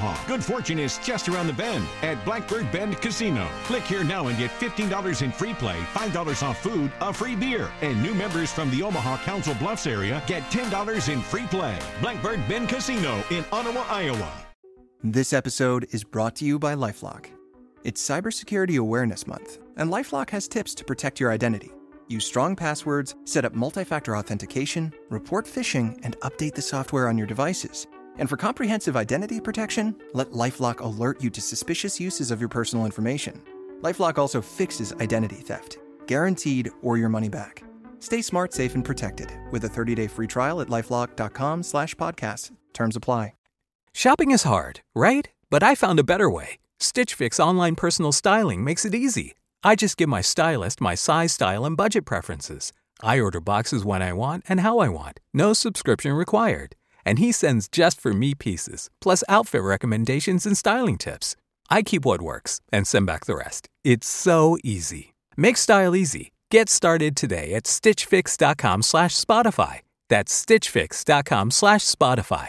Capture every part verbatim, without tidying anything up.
Omaha. Good fortune is just around the bend at Blackbird Bend Casino. Click here now and get fifteen dollars in free play, five dollars off food, a free beer. And new members from the Omaha Council Bluffs area get ten dollars in free play. Blackbird Bend Casino in Ottawa, Iowa. This episode is brought to you by LifeLock. It's Cybersecurity Awareness Month, and LifeLock has tips to protect your identity. Use strong passwords, set up multi-factor authentication, report phishing, and update the software on your devices. And for comprehensive identity protection, let LifeLock alert you to suspicious uses of your personal information. LifeLock also fixes identity theft, guaranteed or your money back. Stay smart, safe, and protected with a thirty-day free trial at LifeLock.com slash podcast. Terms apply. Shopping is hard, right? But I found a better way. Stitch Fix online personal styling makes it easy. I just give my stylist my size, style, and budget preferences. I order boxes when I want and how I want. No subscription required. And he sends just for me pieces, plus outfit recommendations and styling tips. I keep what works and send back the rest. It's so easy. Make style easy. Get started today at stitchfix.com slash Spotify. That's stitchfix.com slash Spotify.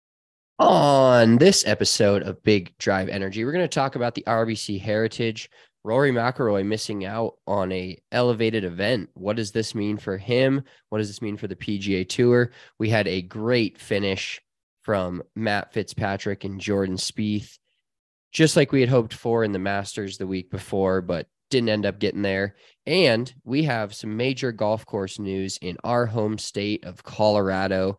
On this episode of Big Drive Energy, we're going to talk about the R B C Heritage. Rory McIlroy missing out on a elevated event. What does this mean for him? What does this mean for the P G A Tour? We had a great finish from Matt Fitzpatrick and Jordan Spieth, just like we had hoped for in the Masters the week before, but didn't end up getting there. And we have some major golf course news in our home state of Colorado.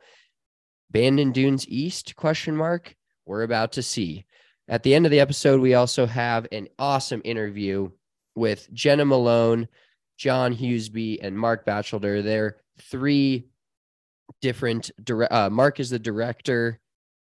Bandon Dunes East, question mark? We're about to see. At the end of the episode, we also have an awesome interview with Jenna Malone, John Hughesby, and Mark Batchelder. They're three different, uh, Mark is the director,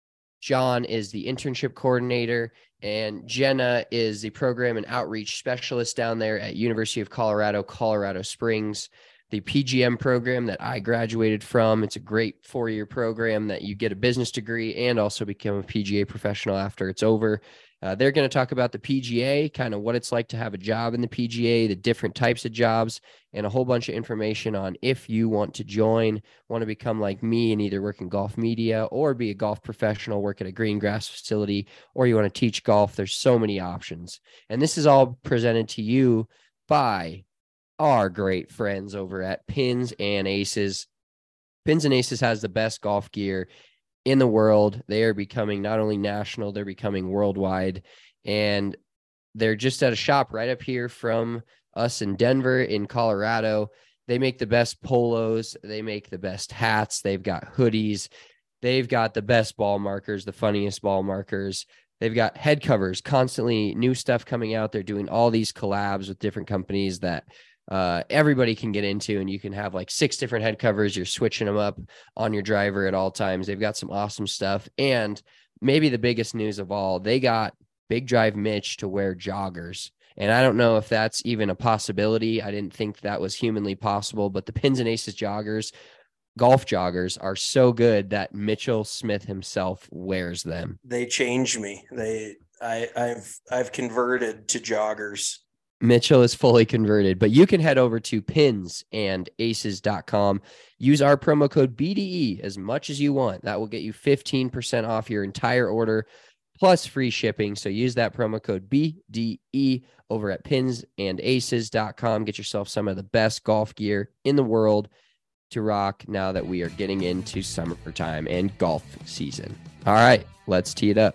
John is the internship coordinator, and Jenna is the program and outreach specialist down there at University of Colorado, Colorado Springs. The P G M program that I graduated from. It's a great four-year program that you get a business degree and also become a P G A professional after it's over. Uh, they're going to talk about the P G A, kind of what it's like to have a job in the P G A, the different types of jobs, and a whole bunch of information on if you want to join, want to become like me and either work in golf media or be a golf professional, work at a green grass facility, or you want to teach golf. There's so many options. And this is all presented to you by our great friends over at Pins and Aces. Pins and Aces has the best golf gear in the world. They are becoming not only national, they're becoming worldwide. And they're just at a shop right up here from us in Denver, in Colorado. They make the best polos. They make the best hats. They've got hoodies. They've got the best ball markers, the funniest ball markers. They've got head covers, constantly new stuff coming out. They're doing all these collabs with different companies that uh, everybody can get into, and you can have like six different head covers. You're switching them up on your driver at all times. They've got some awesome stuff. And maybe the biggest news of all, they got Big Drive Mitch to wear joggers. And I don't know if that's even a possibility. I didn't think that was humanly possible, but the Pins and Aces joggers, golf joggers, are so good that Mitchell Smith himself wears them. They changed me. They, I, I've, I've converted to joggers. Mitchell is fully converted, but you can head over to pins and aces dot com. Use our promo code B D E as much as you want. That will get you fifteen percent off your entire order plus free shipping. So use that promo code B D E over at pins and aces dot com. Get yourself some of the best golf gear in the world to rock now that we are getting into summertime and golf season. All right, let's tee it up.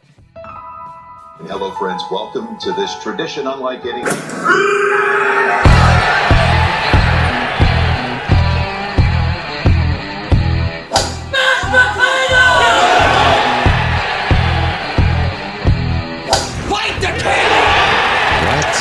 Hello, friends. Welcome to this tradition unlike any. Fight the king! What?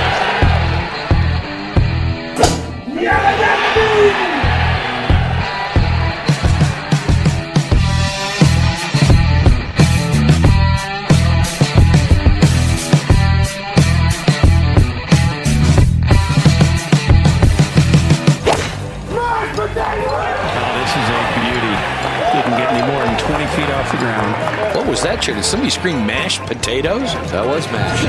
Feet off the ground. What was that, Chair? Did somebody scream mashed potatoes? That was mashed.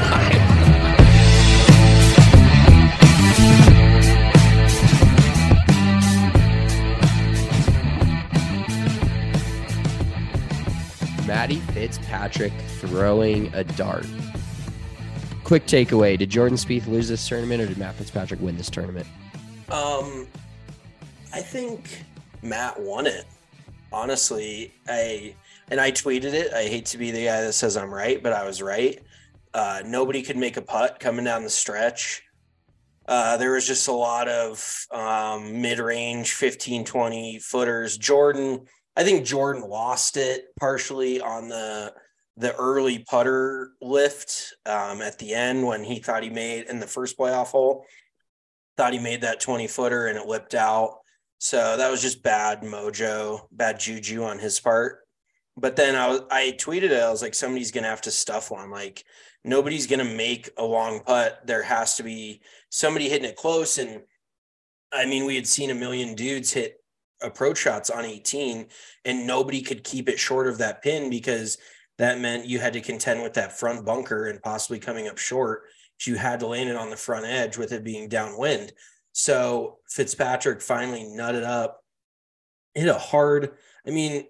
Matty Fitzpatrick throwing a dart. Quick takeaway. Did Jordan Spieth lose this tournament or did Matt Fitzpatrick win this tournament? Um, I think Matt won it. Honestly, I and I tweeted it. I hate to be the guy that says I'm right, but I was right. Uh, nobody could make a putt coming down the stretch. Uh, there was just a lot of um, mid-range fifteen, twenty footers. Jordan, I think Jordan lost it partially on the the early putter lift um, at the end when he thought he made in the first playoff hole, thought he made that twenty footer and it lipped out. So that was just bad mojo, bad juju on his part. But then I was, I tweeted it. I was like, somebody's going to have to stuff one. Like, nobody's going to make a long putt. There has to be somebody hitting it close. And I mean, we had seen a million dudes hit approach shots on eighteen and nobody could keep it short of that pin because that meant you had to contend with that front bunker and possibly coming up short. You had to land it on the front edge with it being downwind. So Fitzpatrick finally nutted up, hit a hard, I mean,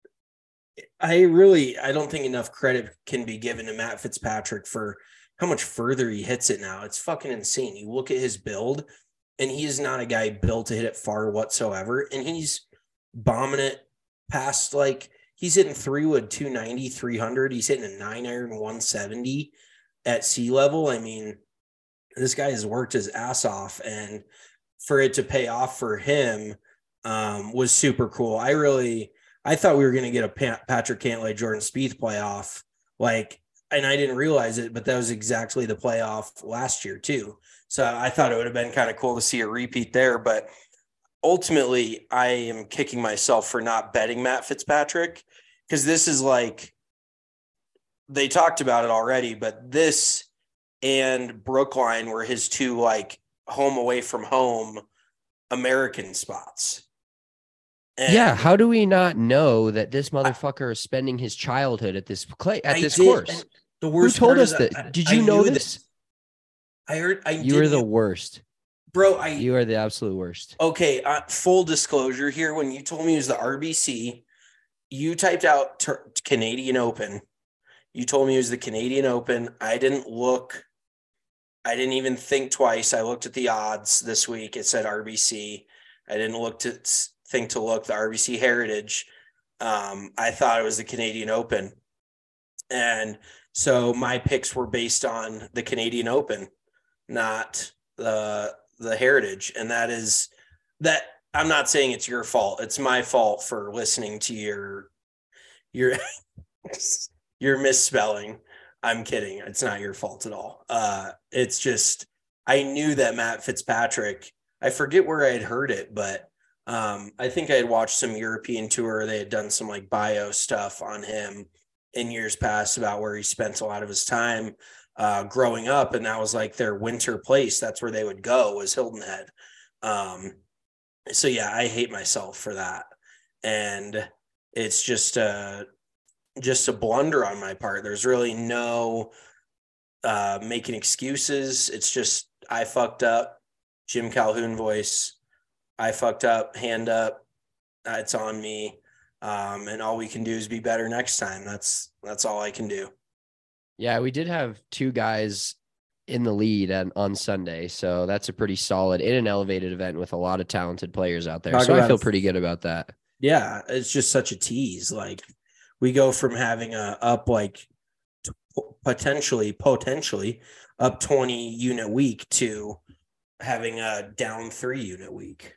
I really, I don't think enough credit can be given to Matt Fitzpatrick for how much further he hits it now. It's fucking insane. You look at his build and he is not a guy built to hit it far whatsoever. And he's bombing it past, like, he's hitting three wood two ninety, three hundred. He's hitting a nine iron one seventy at sea level. I mean, this guy has worked his ass off, and for it to pay off for him um, was super cool. I really, I thought we were going to get a Pat- Patrick Cantlay, Jordan Spieth playoff, like, and I didn't realize it, but that was exactly the playoff last year too. So I thought it would have been kind of cool to see a repeat there, but ultimately I am kicking myself for not betting Matt Fitzpatrick because this is like, they talked about it already, but this and Brookline were his two like home away from home American spots. And yeah, how do we not know that this motherfucker is spending his childhood at this clay at I this did, course? The worst Who told part us is that? I, Did I you know knew this? that- I heard. I You are did the knew- worst, bro. I you are the absolute worst. okay. Uh, full disclosure here: when you told me it was the R B C, you typed out ter- Canadian Open. You told me it was the Canadian Open. I didn't look. I didn't even think twice. I looked at the odds this week. It said R B C. I didn't look to think to look the R B C Heritage. Um, I thought it was the Canadian Open. And so my picks were based on the Canadian Open, not the the Heritage. And that is that I'm not saying it's your fault. It's my fault for listening to your your your misspelling. I'm kidding. It's not your fault at all. Uh, it's just I knew that Matt Fitzpatrick, I forget where I had heard it, but um, I think I had watched some European tour. They had done some like bio stuff on him in years past about where he spent a lot of his time uh, growing up. And that was like their winter place. That's where they would go, was Hilton Head. Um, so yeah, I hate myself for that. And it's just uh just a blunder on my part. There's really no uh, making excuses. It's just, I fucked up. Jim Calhoun voice. I fucked up, hand up. Uh, it's on me. Um, and all we can do is be better next time. That's, that's all I can do. Yeah, we did have two guys in the lead on, on Sunday. So that's a pretty solid in an elevated event with a lot of talented players out there. Talk so I about feel it. pretty good about that. Yeah. It's just such a tease. Like, we go from having a up like t- potentially, potentially up twenty unit week to having a down three unit week.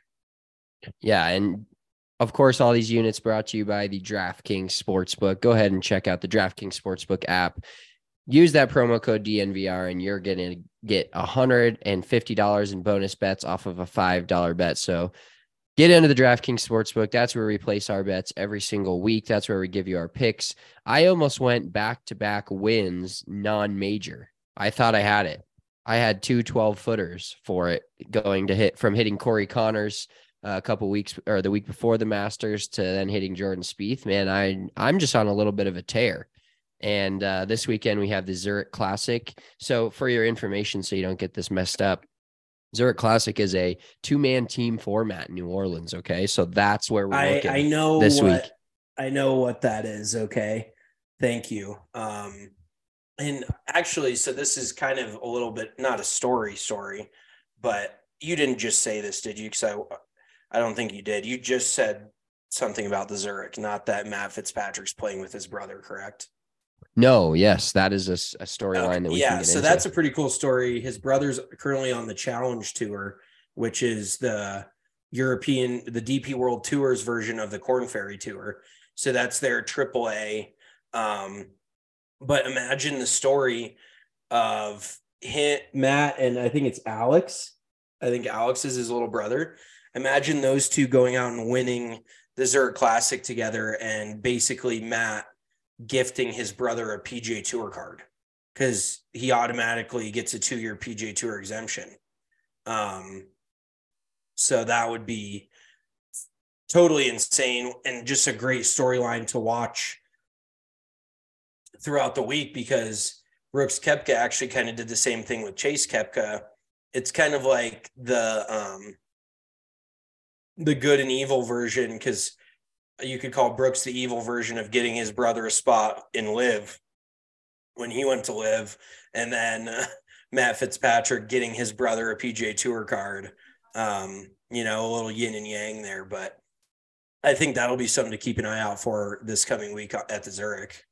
Yeah. And of course, all these units brought to you by the DraftKings Sportsbook. Go ahead and check out the DraftKings Sportsbook app. Use that promo code D N V R and you're going to get one hundred fifty dollars in bonus bets off of a five dollar bet. So get into the DraftKings Sportsbook. That's where we place our bets every single week. That's where we give you our picks. I almost went back-to-back wins non-major. I thought I had it. I had two twelve-footers for it going to hit from hitting Corey Connors uh, a couple weeks or the week before the Masters to then hitting Jordan Spieth. Man, I, I'm just on a little bit of a tear. And uh, this weekend we have the Zurich Classic. So for your information, so you don't get this messed up, Zurich Classic is a two-man team format in New Orleans, okay? So that's where we're I, looking I know this what, week. I know what that is, okay? Thank you. Um, and actually, so this is kind of a little bit, not a story story, but you didn't just say this, did you? Because I, I don't think you did. You just said something about the Zurich, not that Matt Fitzpatrick's playing with his brother, correct? No, yes, that is a, a storyline okay. that we yeah, can get so into. That's a pretty cool story. His brother's currently on the Challenge Tour, which is the European, the D P World Tours version of the Corn Ferry Tour. So that's their triple A. Um, but imagine the story of him, Matt, and I think it's Alex. I think Alex is his little brother. Imagine those two going out and winning the Zurich Classic together, and basically Matt gifting his brother a P G A Tour card because he automatically gets a two-year P G A Tour exemption. Um, so that would be totally insane and just a great storyline to watch throughout the week, because Brooks Koepka actually kind of did the same thing with Chase Koepka. It's kind of like the um, the good and evil version, because you could call Brooks the evil version of getting his brother a spot in Live when he went to Live, and then uh, Matt Fitzpatrick getting his brother a P G A Tour card. Um, you know, a little yin and yang there, but I think that'll be something to keep an eye out for this coming week at the Zurich.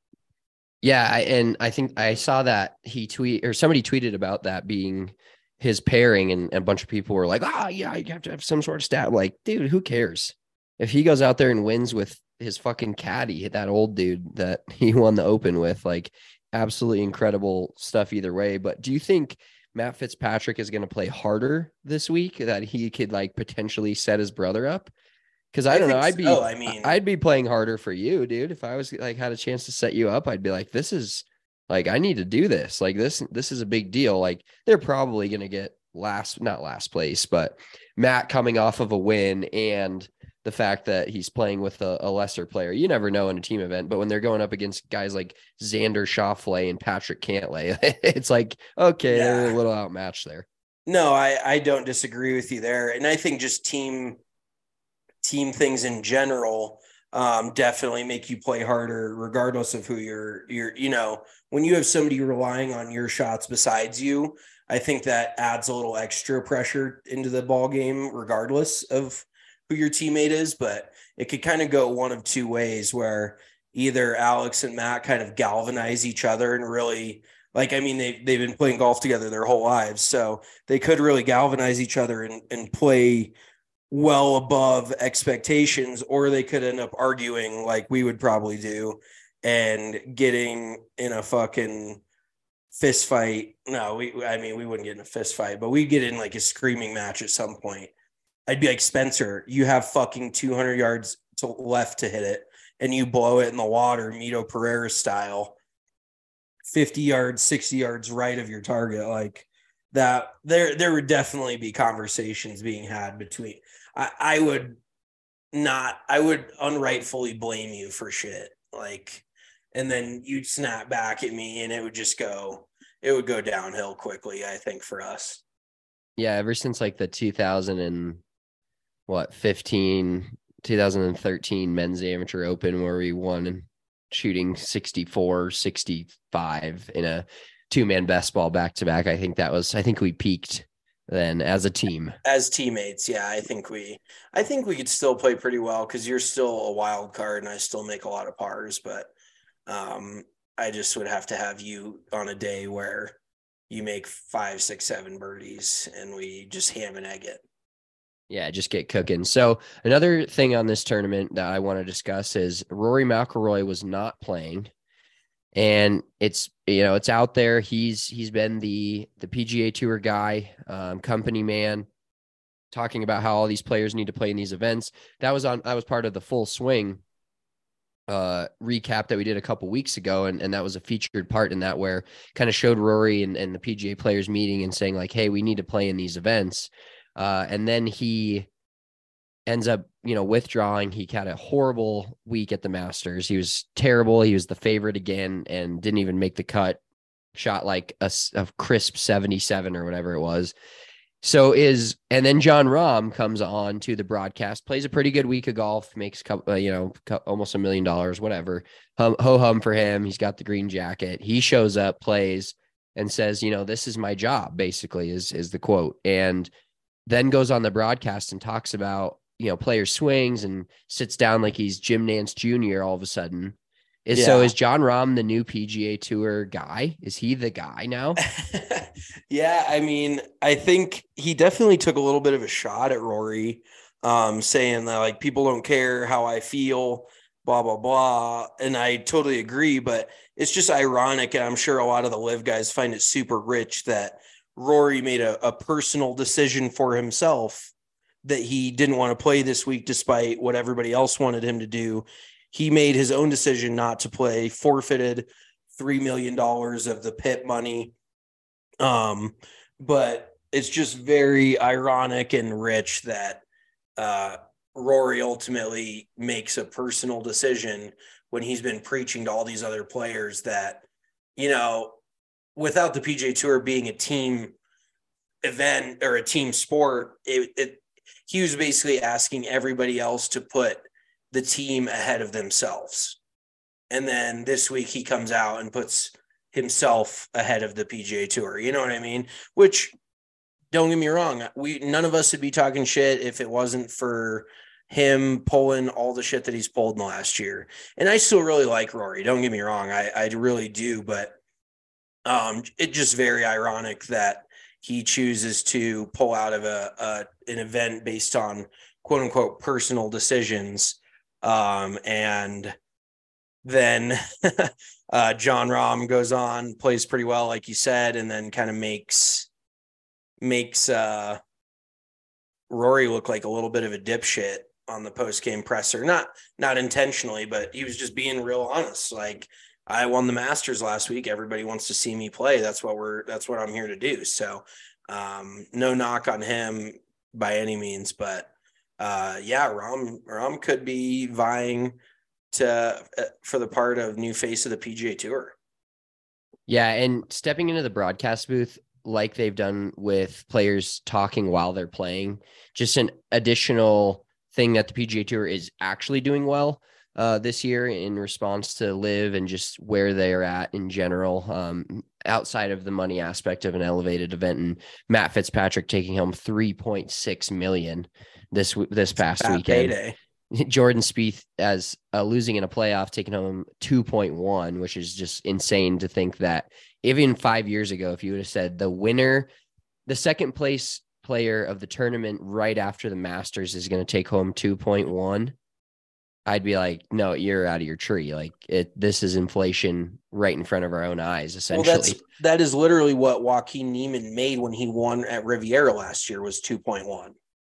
Yeah, I, and I think I saw that he tweet or somebody tweeted about that being his pairing, and, and a bunch of people were like, "Oh, yeah, you have to have some sort of stat." Like, dude, who cares? If he goes out there and wins with his fucking caddy, that old dude that he won the Open with, like, absolutely incredible stuff either way. But do you think Matt Fitzpatrick is going to play harder this week, that he could like potentially set his brother up? Because I, I don't know, I'd be, so. I mean, I'd be playing harder for you, dude. If I was like had a chance to set you up, I'd be like, this is like, I need to do this. Like this, this is a big deal. Like they're probably going to get last, not last place, but Matt coming off of a win and the fact that he's playing with a, a lesser player. You never know in a team event, but when they're going up against guys like Xander Schauffele and Patrick Cantlay, it's like, okay, yeah. They're a little outmatched there. No, I, I don't disagree with you there. And I think just team team things in general um, definitely make you play harder, regardless of who you're, you're, you know, when you have somebody relying on your shots besides you, I think that adds a little extra pressure into the ball game, regardless of who your teammate is. But it could kind of go one of two ways, where either Alex and Matt kind of galvanize each other and really, like, I mean, they've, they've been playing golf together their whole lives, so they could really galvanize each other and, and play well above expectations, or they could end up arguing like we would probably do and getting in a fucking fist fight. No, we, I mean, we wouldn't get in a fist fight, but we'd get in like a screaming match at some point. I'd be like, Spencer, you have fucking two hundred yards to left to hit it, and you blow it in the water, Mito Pereira style, fifty yards, sixty yards right of your target. Like that, there, there would definitely be conversations being had between, I, I would not, I would unrightfully blame you for shit. Like, and then you'd snap back at me and it would just go, it would go downhill quickly, I think, for us. Yeah. Ever since like the two thousand and what, fifteen, two thousand thirteen men's amateur open, where we won and shooting sixty-four, sixty-five in a two-man best ball back-to-back. I think that was, I think we peaked then as a team. As teammates, yeah, I think we, I think we could still play pretty well, because you're still a wild card and I still make a lot of pars, but um, I just would have to have you on a day where you make five, six, seven birdies and we just ham and egg it. Yeah, just get cooking. So another thing on this tournament that I want to discuss is Rory McIlroy was not playing. And it's, you know, it's out there. He's, he's been the, the P G A Tour guy, um, company man, talking about how all these players need to play in these events. That was on, that was part of the Full Swing uh, recap that we did a couple weeks ago. And, and that was a featured part in that, where kind of showed Rory and, and the P G A players meeting and saying like, hey, we need to play in these events. Uh, and then he ends up, you know, withdrawing. He had a horrible week at the Masters. He was terrible. He was the favorite again and didn't even make the cut. Shot like a, a crisp seventy-seven or whatever it was. So is, and then John Rahm comes on to the broadcast, plays a pretty good week of golf, makes, uh, you know, almost a million dollars, whatever. Hum, ho hum for him. He's got the green jacket. He shows up, plays, and says, you know, this is my job, basically, is, is the quote. And then goes on the broadcast and talks about, you know, player swings and sits down like he's Jim Nance Junior all of a sudden. Is, yeah. So is John Rahm the new P G A Tour guy? Is he the guy now? Yeah, I mean, I think he definitely took a little bit of a shot at Rory, um, saying that, like, people don't care how I feel, blah, blah, blah. And I totally agree, but it's just ironic. And I'm sure a lot of the Live guys find it super rich that Rory made a, a personal decision for himself that he didn't want to play this week, despite what everybody else wanted him to do. He made his own decision not to play, forfeited three million dollars of the pit money. Um, but it's just very ironic and rich that uh, Rory ultimately makes a personal decision when he's been preaching to all these other players that, you know, without the P G A Tour being a team event or a team sport, it, it he was basically asking everybody else to put the team ahead of themselves. And then this week he comes out and puts himself ahead of the P G A Tour. You know what I mean? Which, don't get me wrong, we none of us would be talking shit if it wasn't for him pulling all the shit that he's pulled in the last year. And I still really like Rory. Don't get me wrong. I, I really do, but um, it's just very ironic that he chooses to pull out of a, a an event based on quote unquote personal decisions. Um, and then uh, John Rahm goes on, plays pretty well, like you said, and then kind of makes makes uh, Rory look like a little bit of a dipshit on the post-game presser. Not not intentionally, but he was just being real honest. Like, I won the Masters last week. Everybody wants to see me play. That's what we're that's what I'm here to do. So um, no knock on him by any means, but uh, yeah, Rahm Rahm could be vying to uh, for the part of new face of the P G A Tour. Yeah, and stepping into the broadcast booth like they've done with players talking while they're playing, just an additional thing that the P G A Tour is actually doing well uh, this year in response to Live and just where they're at in general, um, outside of the money aspect of an elevated event. And Matt Fitzpatrick taking home three point six million this this past weekend. Payday. Jordan Spieth as uh, losing in a playoff, taking home two point one, which is just insane to think that even five years ago, if you would have said the winner, the second place player of the tournament right after the Masters is going to take home two point one, I'd be like, no, you're out of your tree. Like, it, this is inflation right in front of our own eyes, essentially. Well, that's, that is literally what Joaquin Niemann made when he won at Riviera last year, was two point one.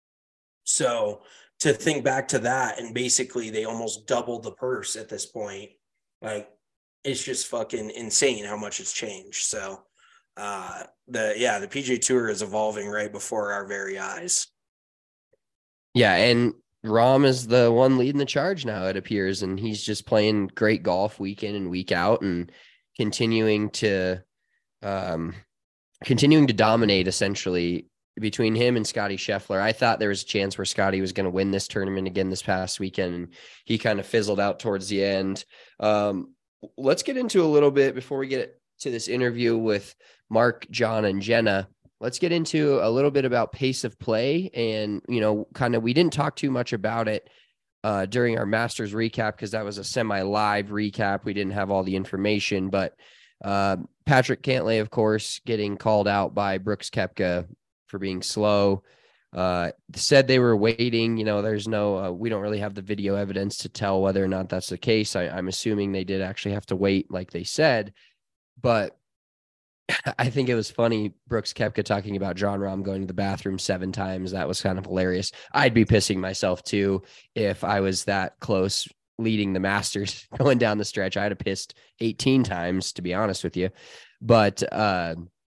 So to think back to that, and basically they almost doubled the purse at this point, like, it's just fucking insane how much it's changed. So uh, the, yeah, the P G A Tour is evolving right before our very eyes. Yeah. And Rahm is the one leading the charge now, it appears, and he's just playing great golf week in and week out and continuing to, um, continuing to dominate essentially between him and Scotty Scheffler. I thought there was a chance where Scotty was going to win this tournament again this past weekend, and he kind of fizzled out towards the end. Um, let's get into a little bit before we get to this interview with Mark, John, and Jenna. Let's get into a little bit about pace of play. And, you know, kind of, we didn't talk too much about it uh, during our Masters recap, because that was a semi-live recap. We didn't have all the information, but uh, Patrick Cantlay, of course, getting called out by Brooks Koepka for being slow, uh, said they were waiting. You know, there's no, uh, we don't really have the video evidence to tell whether or not that's the case. I, I'm assuming they did actually have to wait, like they said, but I think it was funny, Brooks Koepka talking about John Rahm going to the bathroom seven times. That was kind of hilarious. I'd be pissing myself too if I was that close leading the Masters going down the stretch. I'd have pissed eighteen times, to be honest with you. But uh,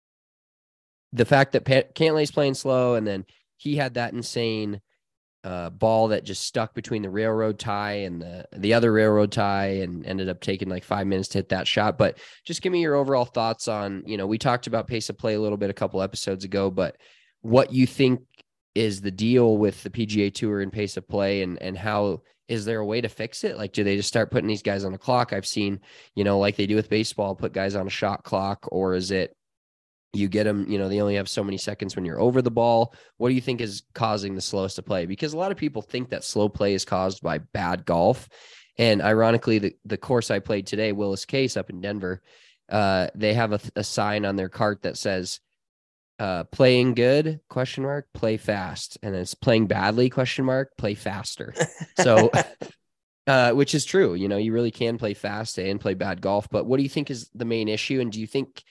the fact that Pat- Cantlay's playing slow, and then he had that insane uh, ball that just stuck between the railroad tie and the, the other railroad tie, and ended up taking like five minutes to hit that shot. But just give me your overall thoughts on, you know, we talked about pace of play a little bit a couple episodes ago, but what you think is the deal with the P G A Tour and pace of play, and and how is there a way to fix it? Like, do they just start putting these guys on a clock? I've seen, you know, like they do with baseball, put guys on a shot clock, or is it you get them, you know, they only have so many seconds when you're over the ball? What do you think is causing the slowest to play? Because a lot of people think that slow play is caused by bad golf. And ironically, the, the course I played today, Willis Case up in Denver, uh, they have a, a sign on their cart that says, uh, playing good, question mark, play fast. And it's playing badly, question mark, play faster. So, uh, which is true. You know, you really can play fast and play bad golf. But what do you think is the main issue? And do you think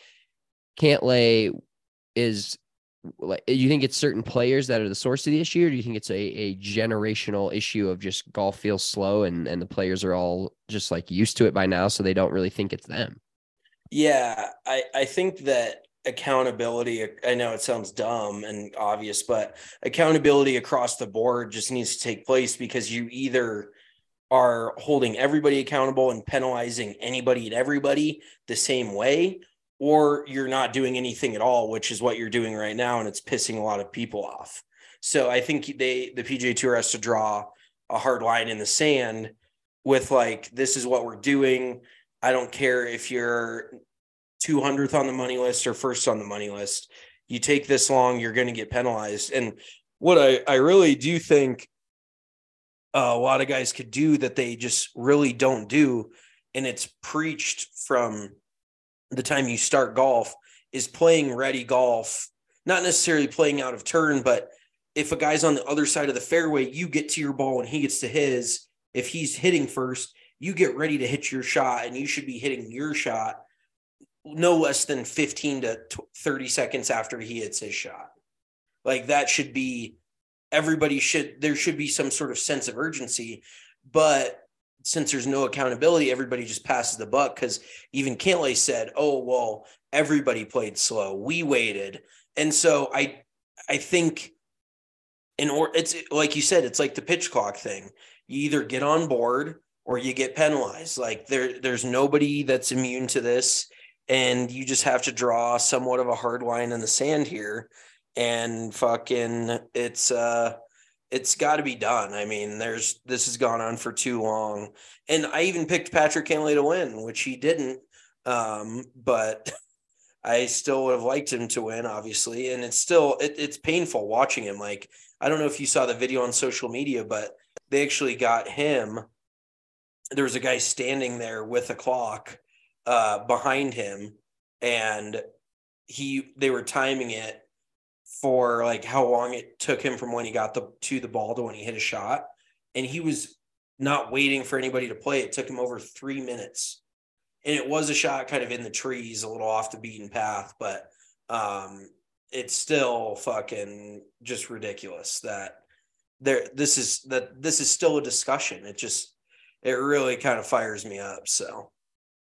Cantlay is like, you think it's certain players that are the source of the issue, or do you think it's a, a generational issue of just golf feels slow and, and the players are all just like used to it by now, so they don't really think it's them? Yeah, I, I think that accountability, I know it sounds dumb and obvious, but accountability across the board just needs to take place, because you either are holding everybody accountable and penalizing anybody and everybody the same way, or you're not doing anything at all, which is what you're doing right now, and it's pissing a lot of people off. So I think they, the P G A Tour has to draw a hard line in the sand with like, this is what we're doing. I don't care if you're two hundredth on the money list or first on the money list. You take this long, you're going to get penalized. And what I, I really do think uh, a lot of guys could do that they just really don't do, and it's preached from the time you start golf, is playing ready golf, not necessarily playing out of turn, but if a guy's on the other side of the fairway, you get to your ball and he gets to his. If he's hitting first, you get ready to hit your shot, and you should be hitting your shot no less than fifteen to thirty seconds after he hits his shot. Like, that should be, everybody should, there should be some sort of sense of urgency, but since there's no accountability, everybody just passes the buck, because even Cantlay said, oh, well, everybody played slow. We waited. And so I I think in or it's like you said, it's like the pitch clock thing. You either get on board or you get penalized. Like there, there's nobody that's immune to this. And you just have to draw somewhat of a hard line in the sand here. And fucking it's uh it's got to be done. I mean, there's this has gone on for too long. And I even picked Patrick Cantlay to win, which he didn't. Um, but I still would have liked him to win, obviously. And it's still it, it's painful watching him. Like, I don't know if you saw the video on social media, but they actually got him. There was a guy standing there with a clock uh, behind him, and he they were timing it for like how long it took him from when he got the to the ball to when he hit a shot. And he was not waiting for anybody to play. It took him over three minutes. And it was a shot kind of in the trees, a little off the beaten path, but um, it's still fucking just ridiculous that there, this is that this is still a discussion. It just, it really kind of fires me up. So.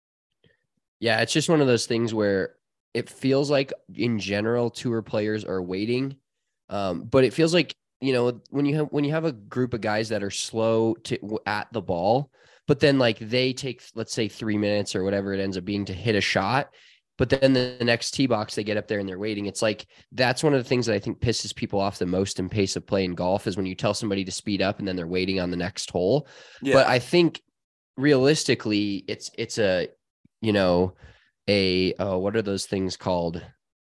Yeah, it's just one of those things where it feels like in general tour players are waiting. Um, but it feels like, you know, when you have, when you have a group of guys that are slow to at the ball, but then like they take, let's say three minutes or whatever it ends up being to hit a shot, but then the next tee box, they get up there and they're waiting. It's like, that's one of the things that I think pisses people off the most in pace of play in golf is when you tell somebody to speed up and then they're waiting on the next hole. Yeah. But I think realistically it's, it's a, you know, a, uh, what are those things called?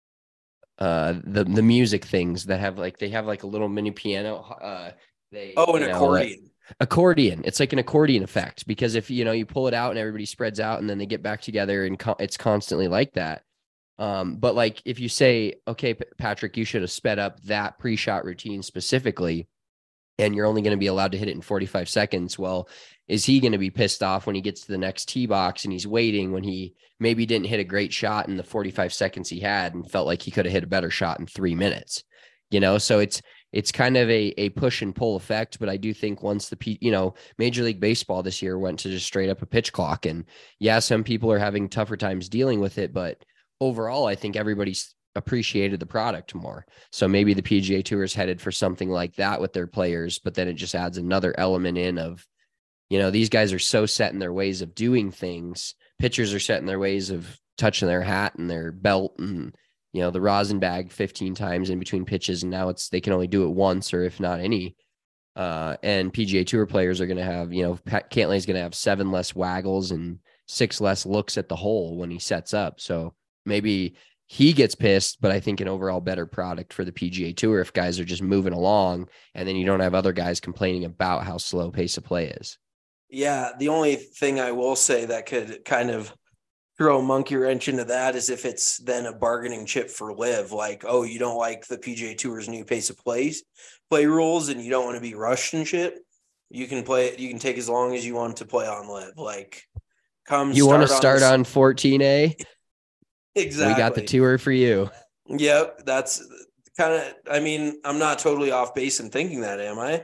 Uh, the, the music things that have like, they have like a little mini piano. Uh, they, oh, an you know, accordion. Like, accordion. It's like an accordion effect, because if, you know, you pull it out and everybody spreads out and then they get back together and co- it's constantly like that. Um, but like, if you say, okay, P- Patrick, you should have sped up that pre-shot routine specifically, and you're only going to be allowed to hit it in forty-five seconds. Well, is he going to be pissed off when he gets to the next tee box and he's waiting when he maybe didn't hit a great shot in the forty-five seconds he had and felt like he could have hit a better shot in three minutes, you know? So it's, it's kind of a, a push and pull effect. But I do think once the, you know, Major League Baseball this year went to just straight up a pitch clock, and yeah, some people are having tougher times dealing with it, but overall, I think everybody's appreciated the product more. So maybe the P G A Tour is headed for something like that with their players, but then it just adds another element in of, you know, these guys are so set in their ways of doing things. Pitchers are set in their ways of touching their hat and their belt and you know, the rosin bag fifteen times in between pitches, and now it's they can only do it once or if not any. Uh, and P G A Tour players are going to have, you know, Pat Cantlay is going to have seven less waggles and six less looks at the hole when he sets up. So maybe he gets pissed, but I think an overall better product for the P G A Tour if guys are just moving along, and then you don't have other guys complaining about how slow pace of play is. Yeah, the only thing I will say that could kind of throw a monkey wrench into that is if it's then a bargaining chip for Liv, like, oh, you don't like the P G A Tour's new pace of plays, play rules, and you don't want to be rushed and shit. You can play it. You can take as long as you want to play on Liv. Like, come. You want to start on, on fourteen A? Exactly. We got the tour for you. Yep, that's kind of. I mean, I'm not totally off base in thinking that, am I?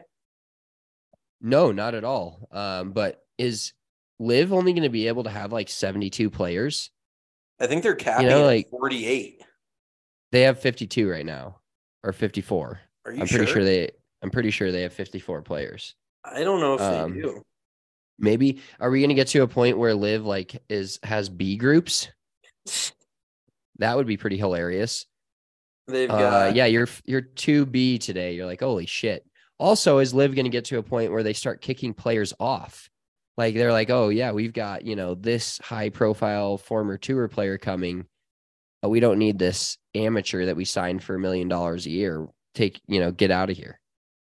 No, not at all. Um, but is Liv only going to be able to have like seventy-two players? I think they're capping you know, at like forty-eight. They have fifty-two right now, or fifty-four. Are you I'm sure? pretty sure they. I'm pretty sure they have fifty-four players. I don't know if um, they do. Maybe are we going to get to a point where Liv like is has B groups? That would be pretty hilarious. They've uh, got yeah. You're you're two B today. You're like, holy shit. Also, is Liv going to get to a point where they start kicking players off? Like they're like, oh yeah, we've got, you know, this high profile former tour player coming. But we don't need this amateur that we signed for a million dollars a year. Take, you know, get out of here.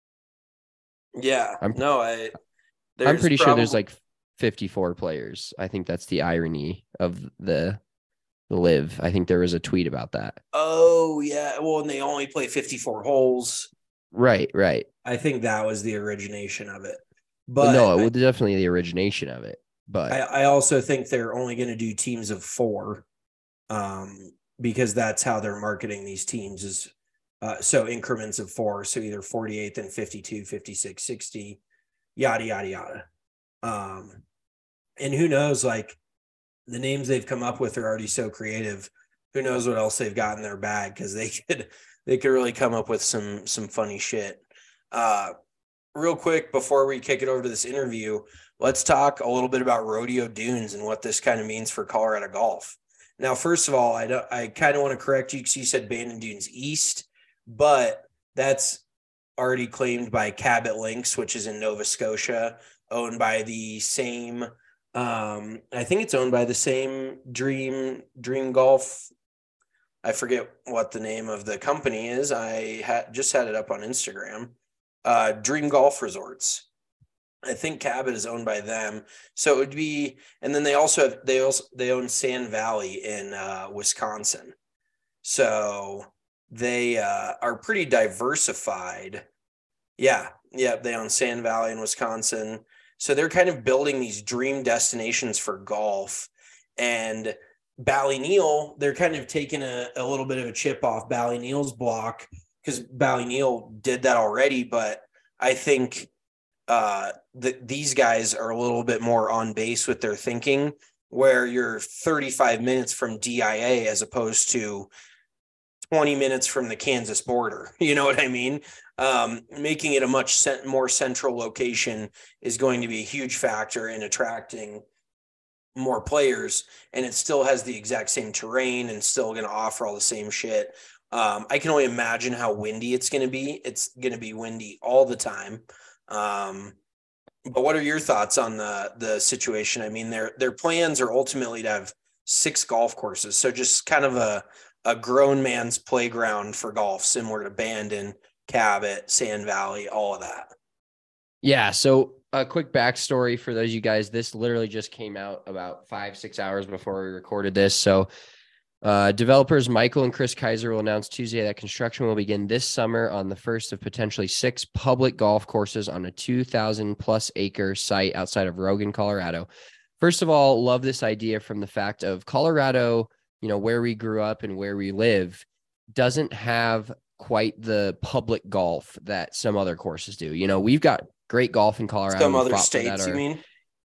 Yeah. I'm, no, I I'm pretty probably, sure there's like fifty-four players. I think that's the irony of the the Liv. I think there was a tweet about that. Oh yeah. Well, and they only play fifty-four holes. Right, right. I think that was the origination of it. But But no, it I, was definitely the origination of it. But I, I also think they're only going to do teams of four, um, because that's how they're marketing these teams is uh, so increments of four. So either forty-eight, then fifty-two, fifty-six, sixty, yada, yada, yada. Um, and who knows, like the names they've come up with are already so creative. Who knows what else they've got in their bag, because they could they could really come up with some some funny shit. Uh, real quick before we kick it over to this interview, let's talk a little bit about Rodeo Dunes and what this kind of means for Colorado golf. Now, first of all, I don't, I kind of want to correct you because you said Bandon Dunes East, but that's already claimed by Cabot Links, which is in Nova Scotia, owned by the same. Um, I think it's owned by the same Dream Dream Golf. I forget what the name of the company is. I had just had it up on Instagram. Uh, Dream Golf Resorts. I think Cabot is owned by them. So it would be, and then they also have, they also, they own Sand Valley in uh, Wisconsin. So they uh, are pretty diversified. Yeah. Yeah. They own Sand Valley in Wisconsin. So they're kind of building these dream destinations for golf. And Ballyneal, they're kind of taking a, a little bit of a chip off Ballyneal's block, because Ballyneal did that already. But I think uh, that these guys are a little bit more on base with their thinking, where you're thirty-five minutes from D I A as opposed to twenty minutes from the Kansas border. You know what I mean? Um, making it a much cent- more central location is going to be a huge factor in attracting more players, and it still has the exact same terrain and still going to offer all the same shit. Um, I can only imagine how windy it's going to be. It's going to be windy all the time. Um, but what are your thoughts on the the situation? I mean, their their plans are ultimately to have six golf courses, so just kind of a a grown man's playground for golf, similar to Bandon, Cabot, Sand Valley, all of that. Yeah. So a quick backstory for those of you guys. This literally just came out about five, six hours before we recorded this. So uh, developers Michael and Chris Kaiser will announce Tuesday that construction will begin this summer on the first of potentially six public golf courses on a two thousand plus acre site outside of Rogan, Colorado. First of all, love this idea from the fact of Colorado, you know, where we grew up and where we live, doesn't have quite the public golf that some other courses do. You know, we've got great golf in Colorado. Some other states, you mean?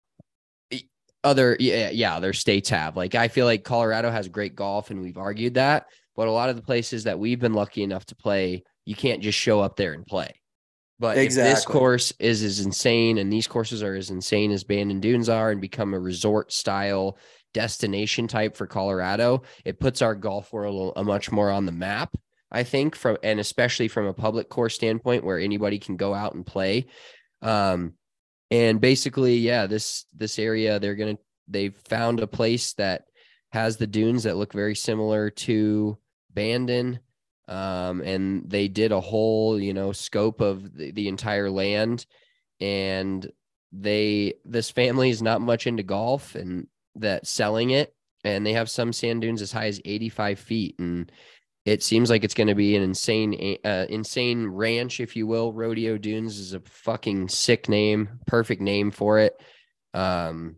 Other, yeah, yeah, other states have. Like, I feel like Colorado has great golf, and we've argued that. But a lot of the places that we've been lucky enough to play, you can't just show up there and play. But exactly. If this course is as insane, and these courses are as insane as Bandon Dunes are, and become a resort style, destination type for Colorado, it puts our golf world a much more on the map, I think, from, and especially from a public course standpoint where anybody can go out and play. Um, and basically, yeah, this, this area, they're going to, they've found a place that has the dunes that look very similar to Bandon. Um, and they did a whole, you know, scope of the, the entire land. And they, this family is not much into golf and that selling it. And they have some sand dunes as high as eighty-five feet. And it seems like it's going to be an insane, uh, insane ranch, if you will. Rodeo Dunes is a fucking sick name, perfect name for it. Um,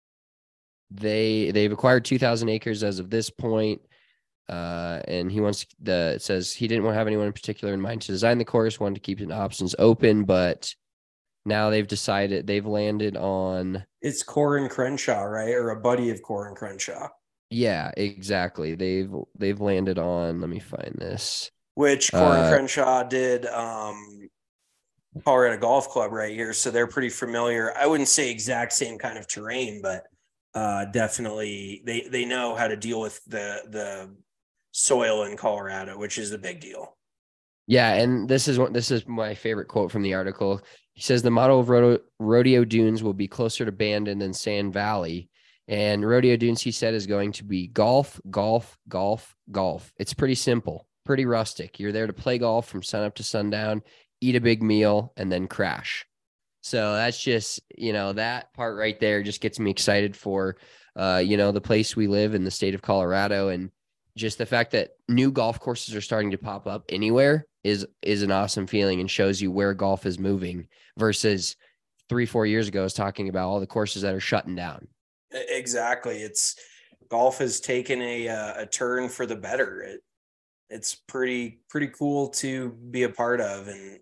they, they've acquired two thousand acres as of this point. Uh, and he wants the, it says he didn't want to have anyone in particular in mind to design the course, wanted to keep the options open, but now they've decided they've landed on. It's Corin Crenshaw, right? Or a buddy of Corin Crenshaw. Yeah, exactly. They've, they've landed on, let me find this. Which Corin uh, Crenshaw did, um, Colorado Golf Club right here. So they're pretty familiar. I wouldn't say exact same kind of terrain, but, uh, definitely they, they know how to deal with the, the, soil in Colorado, which is a big deal. Yeah, and this is what this is my favorite quote from the article. He says the model of Rodeo, Rodeo Dunes will be closer to Bandon than Sand Valley, and Rodeo Dunes, he said, is going to be golf, golf, golf, golf. It's pretty simple, pretty rustic. You're there to play golf from sunup to sundown, eat a big meal, and then crash. So that's just, you know, that part right there just gets me excited for, uh, you know, the place we live in the state of Colorado. And just the fact that new golf courses are starting to pop up anywhere is, is an awesome feeling and shows you where golf is moving versus three, four years ago, I was talking about all the courses that are shutting down. Exactly. It's golf has taken a, uh, a turn for the better. It, it's pretty, pretty cool to be a part of. And,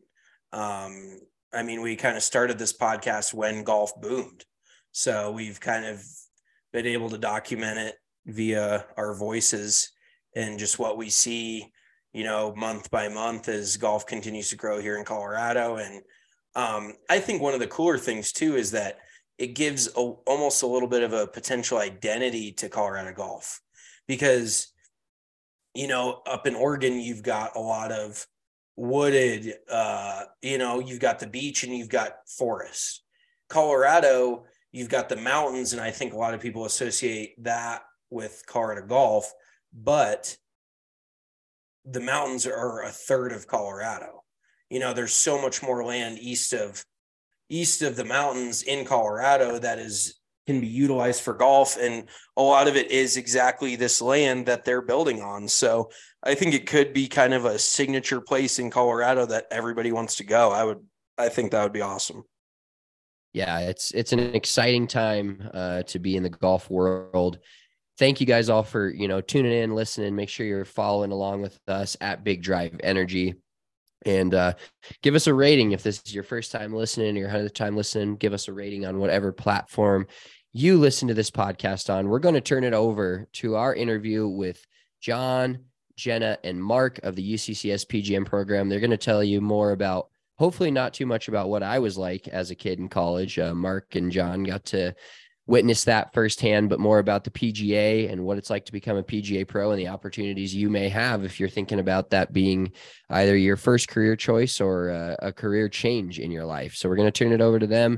um, I mean, we kind of started this podcast when golf boomed. So we've kind of been able to document it via our voices and just what we see, you know, month by month as golf continues to grow here in Colorado. And um, I think one of the cooler things too is that it gives a, almost a little bit of a potential identity to Colorado golf, because, you know, up in Oregon, you've got a lot of wooded, uh, you know, you've got the beach and you've got forest. Colorado, you've got the mountains. And I think a lot of people associate that with Colorado golf, but the mountains are a third of Colorado. You know, there's so much more land east of east of the mountains in Colorado that is can be utilized for golf, and a lot of it is exactly this land that they're building on. So I think it could be kind of a signature place in Colorado that everybody wants to go. I would I think that would be awesome. Yeah, it's it's an exciting time uh, to be in the golf world. Thank you guys all for, you know, tuning in, listening. Make sure you're following along with us at Big Drive Energy, and uh, give us a rating. If this is your first time listening or your hundredth time listening, give us a rating on whatever platform you listen to this podcast on. We're going to turn it over to our interview with John, Jenna, and Mark of the U C C S P G M program. They're going to tell you more about, hopefully not too much about what I was like as a kid in college. Uh, Mark and John got to witness that firsthand, but more about the P G A and what it's like to become a P G A pro and the opportunities you may have if you're thinking about that being either your first career choice or a, a career change in your life. So we're going to turn it over to them.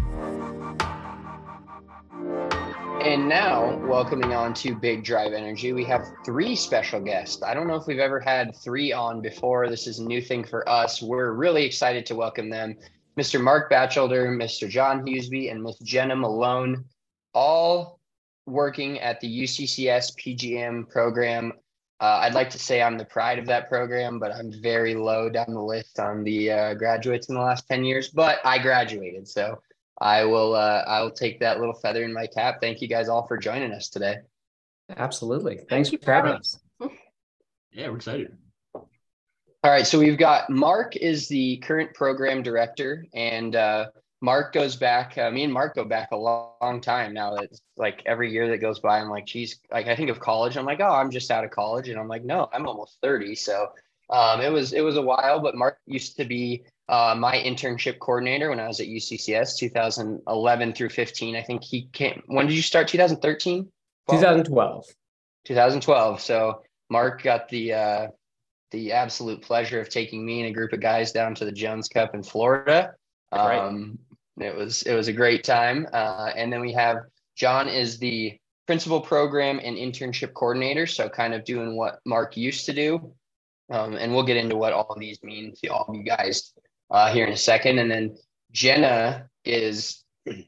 And now, welcoming on to Big Drive Energy, we have three special guests. I don't know if we've ever had three on before. This is a new thing for us. We're really excited to welcome them. Mister Mark Batchelder, Mister John Huseby, and Miss Jenna Malone, all working at the U C C S P G M program. Uh, I'd like to say I'm the pride of that program, but I'm very low down the list on the uh, graduates in the last ten years, but I graduated. So I will, uh, I will take that little feather in my cap. Thank you guys all for joining us today. Absolutely. Thanks Thank for having us. Yeah, we're excited. All right. So we've got Mark is the current program director, and uh, Mark goes back, uh, me and Mark go back a long, long time now. It's like every year that goes by, I'm like, geez, like I think of college. I'm like, oh, I'm just out of college. And I'm like, no, I'm almost thirty. So um, it was, it was a while, but Mark used to be uh, my internship coordinator when I was at U C C S two thousand eleven through fifteen. I think he came, when did you start? two thousand thirteen? twenty twelve. twenty twelve. So Mark got the uh, the absolute pleasure of taking me and a group of guys down to the Jones Cup in Florida. Um, right. It was it was a great time. Uh, and then we have John is the principal program and internship coordinator, so kind of doing what Mark used to do. Um, and we'll get into what all of these mean to all of you guys uh, here in a second. And then Jenna is,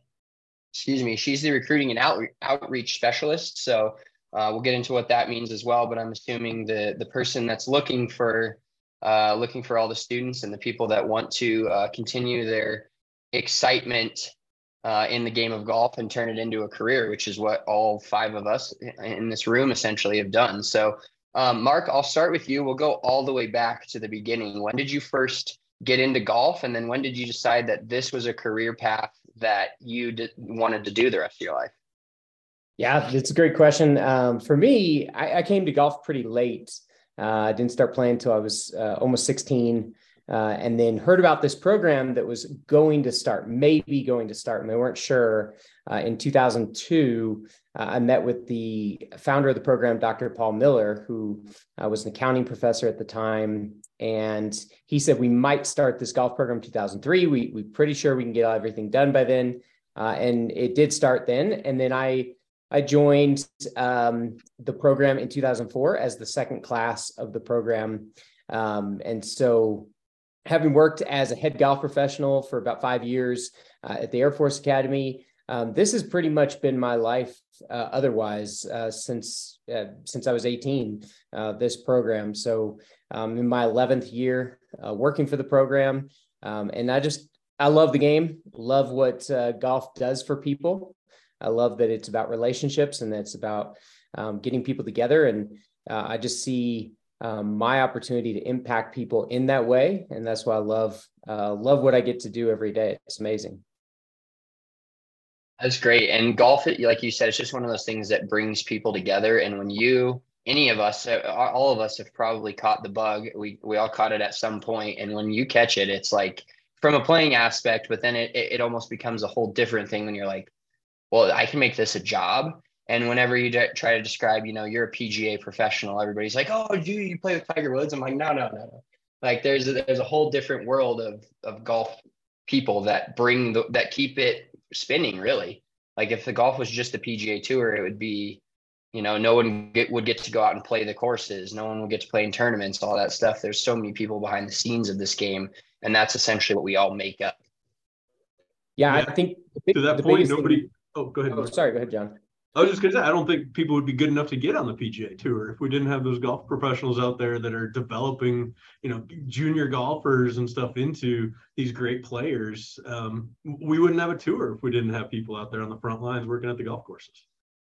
excuse me, she's the recruiting and out, outreach specialist. So uh, we'll get into what that means as well. But I'm assuming the the person that's looking for uh, looking for all the students and the people that want to uh, continue their excitement uh, in the game of golf and turn it into a career, which is what all five of us in this room essentially have done. So Um, Mark, I'll start with you. We'll go all the way back to the beginning. When did you first get into golf? And then when did you decide that this was a career path that you did, wanted to do the rest of your life? Yeah, it's a great question. Um, for me, I, I came to golf pretty late. Uh, I didn't start playing until I was uh, almost sixteen, uh, and then heard about this program that was going to start, maybe going to start, and they weren't sure. Uh, in two thousand two, uh, I met with the founder of the program, Doctor Paul Miller, who uh, was an accounting professor at the time. And he said, we might start this golf program in two thousand three. We, we're pretty sure we can get everything done by then. Uh, and it did start then. And then I, I joined um, the program in two thousand four as the second class of the program. Um, and so having worked as a head golf professional for about five years uh, at the Air Force Academy, Um, this has pretty much been my life uh, otherwise uh, since uh, since I was eighteen, uh, this program. So um, in my eleventh year uh, working for the program. Um, and I just, I love the game, love what uh, golf does for people. I love that it's about relationships and that it's about um, getting people together. And uh, I just see um, my opportunity to impact people in that way. And that's why I love, uh, love what I get to do every day. It's amazing. That's great. And golf, like you said, it's just one of those things that brings people together. And when you, any of us, all of us have probably caught the bug. We we all caught it at some point. And when you catch it, it's like from a playing aspect, but then it, it almost becomes a whole different thing when you're like, well, I can make this a job. And whenever you de- try to describe, you know, you're a P G A professional, everybody's like, oh, do you play with Tiger Woods? I'm like, no, no, no, no. Like there's a, there's a whole different world of of golf people that bring the, that keep it spinning, really. Like if the golf was just the P G A Tour, it would be, you know, no one get, would get to go out and play the courses. No one would get to play in tournaments, all that stuff. There's so many people behind the scenes of this game, and that's essentially what we all make up. Yeah, yeah. I think big, to that point, nobody. Thing... Oh, go ahead. Oh, sorry. Go ahead, John. I was just going to say, I don't think people would be good enough to get on the P G A Tour if we didn't have those golf professionals out there that are developing, you know, junior golfers and stuff into these great players. Um, we wouldn't have a tour if we didn't have people out there on the front lines working at the golf courses.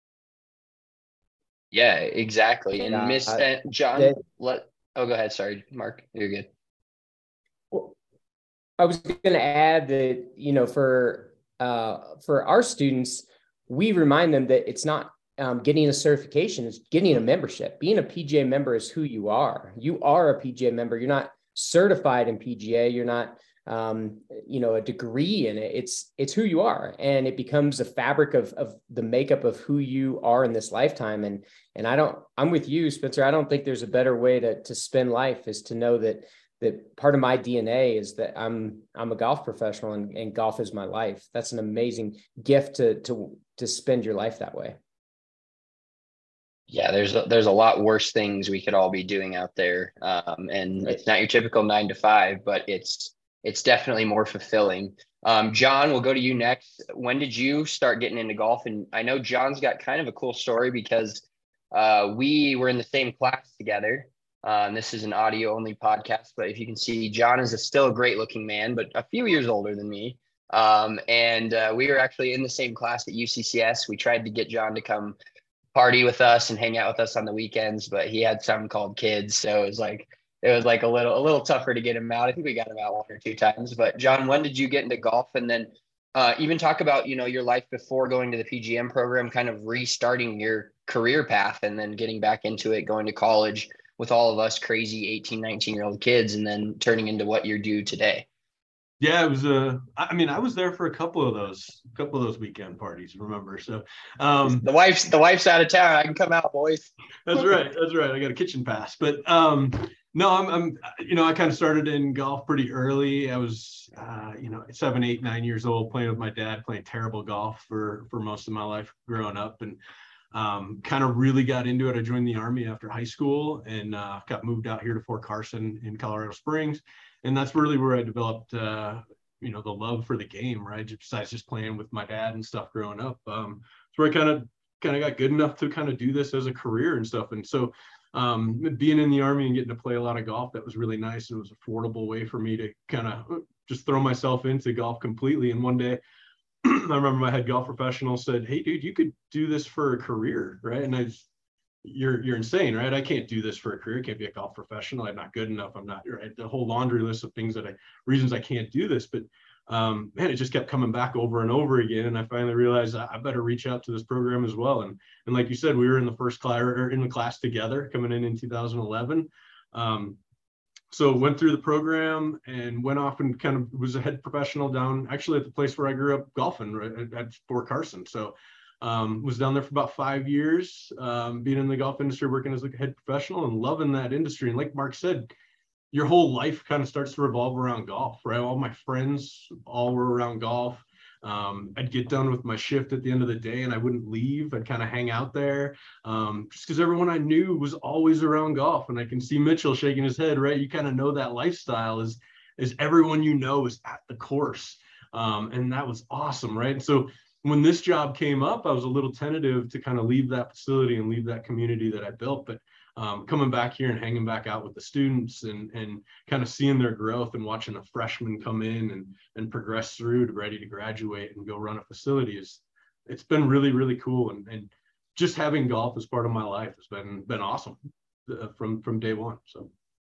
Yeah, exactly. And yeah, Miss uh, John, they, let oh, go ahead. Sorry, Mark, you're good. Well, I was going to add that, you know, for uh, for our students, we remind them that it's not um, getting a certification, it's getting a membership. Being a P G A member is who you are. You are a P G A member. You're not certified in P G A. You're not, um, you know, a degree in it. It's, it's who you are. And it becomes a fabric of, of the makeup of who you are in this lifetime. And, and I don't, I'm with you, Spencer. I don't think there's a better way to, to spend life is to know that that part of my D N A is that I'm I'm a golf professional and, and golf is my life. That's an amazing gift to to to spend your life that way. Yeah, there's a, there's a lot worse things we could all be doing out there, um, and it's not your typical nine to five, but it's it's definitely more fulfilling. Um, John, we'll go to you next. When did you start getting into golf? And I know John's got kind of a cool story because uh, we were in the same class together. Um, this is an audio only podcast, but if you can see, John is a, still a great looking man, but a few years older than me. Um, and uh, we were actually in the same class at U C C S. We tried to get John to come party with us and hang out with us on the weekends, but he had something called kids. So it was like, it was like a little, a little tougher to get him out. I think we got him out one or two times, but John, when did you get into golf? And then uh, even talk about, you know, your life before going to the P G M program, kind of restarting your career path and then getting back into it, going to college with all of us crazy eighteen, nineteen year old kids, and then turning into what you do today. Yeah, it was a. I mean, I was there for a couple of those, a couple of those weekend parties. Remember? So, um, the wife's the wife's out of town. I can come out, boys. That's right. That's right. I got a kitchen pass. But um, no, I'm, I'm. You know, I kind of started in golf pretty early. I was, uh, you know, seven, eight, nine years old, playing with my dad, playing terrible golf for for most of my life growing up, and um, kind of really got into it. I joined the Army after high school and uh, got moved out here to Fort Carson in Colorado Springs. And that's really where I developed, uh, you know, the love for the game, right? Besides just playing with my dad and stuff growing up. Um, it's where I kind of kind of got good enough to kind of do this as a career and stuff. And so um, being in the Army and getting to play a lot of golf, that was really nice. It was an affordable way for me to kind of just throw myself into golf completely. And one day, I remember my head golf professional said, "Hey, dude, you could do this for a career, right?" And I just, you're you're insane, right? I can't do this for a career. I can't be a golf professional. I'm not good enough. I'm not, right? The whole laundry list of things that I, reasons I can't do this. But um, man, it just kept coming back over and over again. And I finally realized I, I better reach out to this program as well. And and like you said, we were in the first class or in the class together coming in in two thousand eleven. Um, so went through the program and went off and kind of was a head professional down actually at the place where I grew up golfing, right, at, at Fort Carson. So Um, was down there for about five years, um, being in the golf industry, working as a head professional and loving that industry. And like Mark said, your whole life kind of starts to revolve around golf, right? All my friends all were around golf. Um, I'd get done with my shift at the end of the day and I wouldn't leave. I'd kind of hang out there um, just because everyone I knew was always around golf. And I can see Mitchell shaking his head, right? You kind of know that lifestyle is, is everyone you know is at the course. Um, and that was awesome, right? And so when this job came up, I was a little tentative to kind of leave that facility and leave that community that I built. But um, coming back here and hanging back out with the students and and kind of seeing their growth and watching a freshman come in and and progress through to ready to graduate and go run a facility is, it's been really, really cool. And, and just having golf as part of my life has been been awesome uh, from from day one. So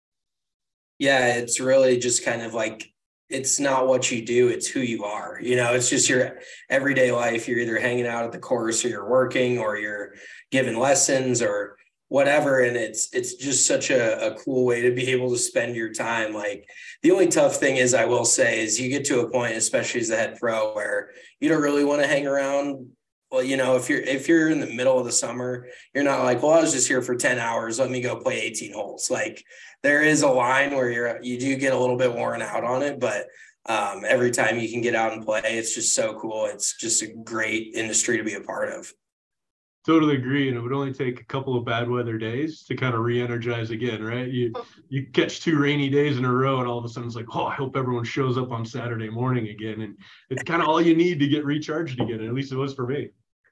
yeah, it's really just kind of like, it's not what you do, it's who you are. You know, it's just your everyday life. You're either hanging out at the course or you're working or you're giving lessons or whatever. And it's, it's just such a, a cool way to be able to spend your time. Like the only tough thing is, I will say, is you get to a point, especially as a head pro, where you don't really want to hang around. Well, you know, if you're, if you're in the middle of the summer, you're not like, well, I was just here for ten hours. Let me go play eighteen holes. Like there is a line where you're, you do get a little bit worn out on it, but um, every time you can get out and play, it's just so cool. It's just a great industry to be a part of. Totally agree. And it would only take a couple of bad weather days to kind of re-energize again, right? You you catch two rainy days in a row and all of a sudden it's like, oh, I hope everyone shows up on Saturday morning again. And it's kind of all you need to get recharged again. At least it was for me.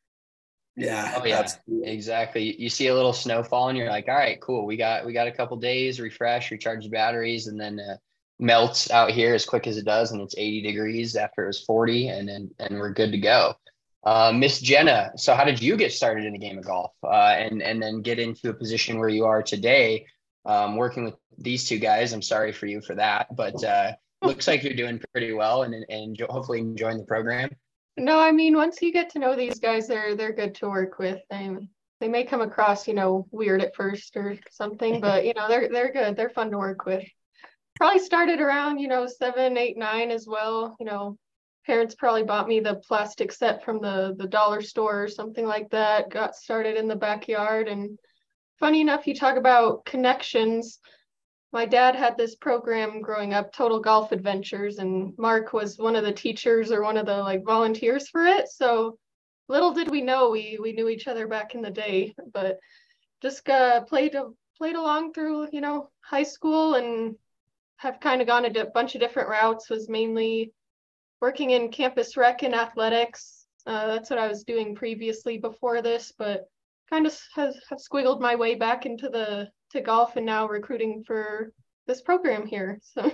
Yeah. Oh yeah, exactly. You see a little snowfall and you're like, all right, cool. We got, we got a couple days, refresh, recharge the batteries, and then uh, melts out here as quick as it does. And it's eighty degrees after it was forty, and then, and we're good to go. Uh, Miss Jenna, so how did you get started in the game of golf uh, and, and then get into a position where you are today, um, working with these two guys? I'm sorry for you for that, but uh, looks like you're doing pretty well and, and hopefully enjoying the program. No, I mean, once you get to know these guys, they're they're good to work with. They, they may come across, you know, weird at first or something, but, you know, they're they're good. They're fun to work with. Probably started around, you know, seven, eight, nine as well. You know, parents probably bought me the plastic set from the, the dollar store or something like that. Got started in the backyard. And funny enough, you talk about connections. My dad had this program growing up, Total Golf Adventures, and Mark was one of the teachers or one of the like volunteers for it. So little did we know we we knew each other back in the day, but just uh, played played along through, you know, high school and have kind of gone a bunch of different routes. Was mainly working in campus rec and athletics. Uh, that's what I was doing previously before this, but kind of has have squiggled my way back into the to golf and now recruiting for this program here. So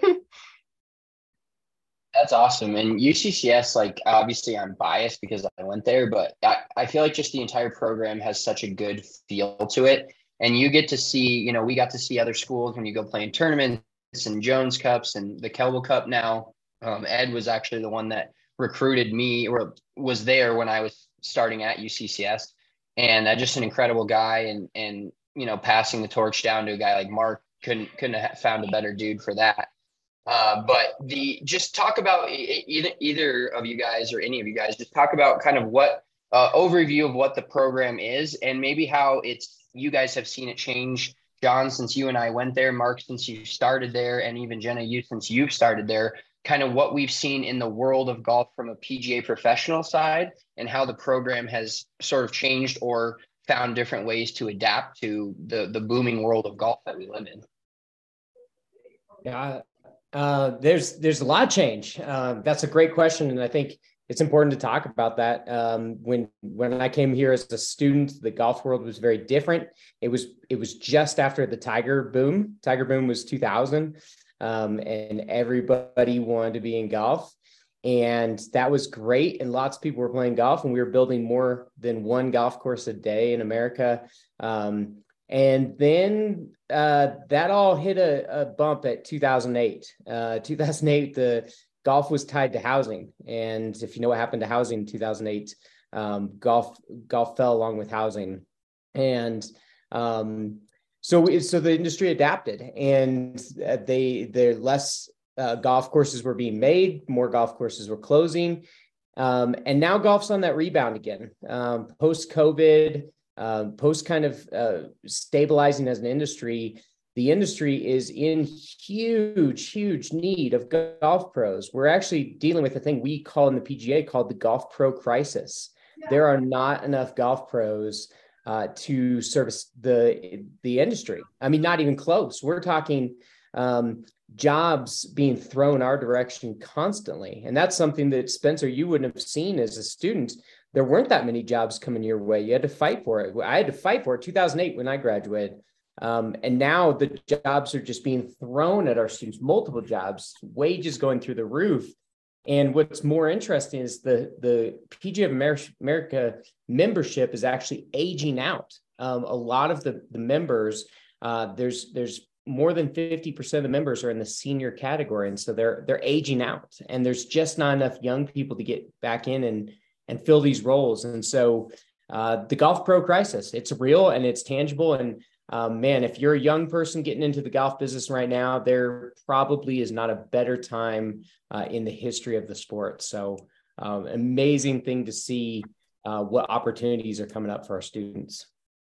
that's awesome. And U C C S, like obviously I'm biased because I went there, but I, I feel like just the entire program has such a good feel to it. And you get to see, you know, we got to see other schools when you go play in tournaments and Jones Cups and the Kelvin Cup now. Um, Ed was actually the one that recruited me or was there when I was starting at U C C S. And uh, just an incredible guy, and, and, you know, passing the torch down to a guy like Mark, couldn't, couldn't have found a better dude for that. Uh, but the just talk about either either of you guys or any of you guys, just talk about kind of what uh, overview of what the program is and maybe how it's you guys have seen it change. John, since you and I went there, Mark, since you started there, and even Jenna, you since you've started there, kind of what we've seen in the world of golf from a P G A professional side and how the program has sort of changed or found different ways to adapt to the the booming world of golf that we live in. Yeah. Uh, there's there's a lot of change. Uh, that's a great question, and I think it's important to talk about that. Um, when when I came here as a student, the golf world was very different. It was it was just after the Tiger boom. Tiger boom was two thousand, um, and everybody wanted to be in golf, and that was great. And lots of people were playing golf, and we were building more than one golf course a day in America. Um, And then uh, that all hit a, a bump at two thousand eight. Uh, two thousand eight, the golf was tied to housing. And if you know what happened to housing in two thousand eight, um, golf golf fell along with housing. And um, so, so the industry adapted, and they there less uh, golf courses were being made, more golf courses were closing. Um, and now golf's on that rebound again. Um, post-COVID, Uh, post kind of uh, stabilizing as an industry, the industry is in huge, huge need of golf pros. We're actually dealing with a thing we call in the P G A called the golf pro crisis. Yeah. There are not enough golf pros uh, to service the, the industry. I mean, not even close. We're talking um, jobs being thrown our direction constantly. And that's something that, Spencer, you wouldn't have seen as a student. There weren't that many jobs coming your way. You had to fight for it. I had to fight for it two thousand eight when I graduated. Um, and now the jobs are just being thrown at our students, multiple jobs, wages going through the roof. And what's more interesting is the, the P G A of America membership is actually aging out. Um, a lot of the, the members, uh, there's, there's more than fifty percent of the members are in the senior category. And so they're, they're aging out, and there's just not enough young people to get back in and and fill these roles. And so uh, the golf pro crisis, it's real and it's tangible. And um, man, if you're a young person getting into the golf business right now, there probably is not a better time uh, in the history of the sport. So um, amazing thing to see uh, what opportunities are coming up for our students.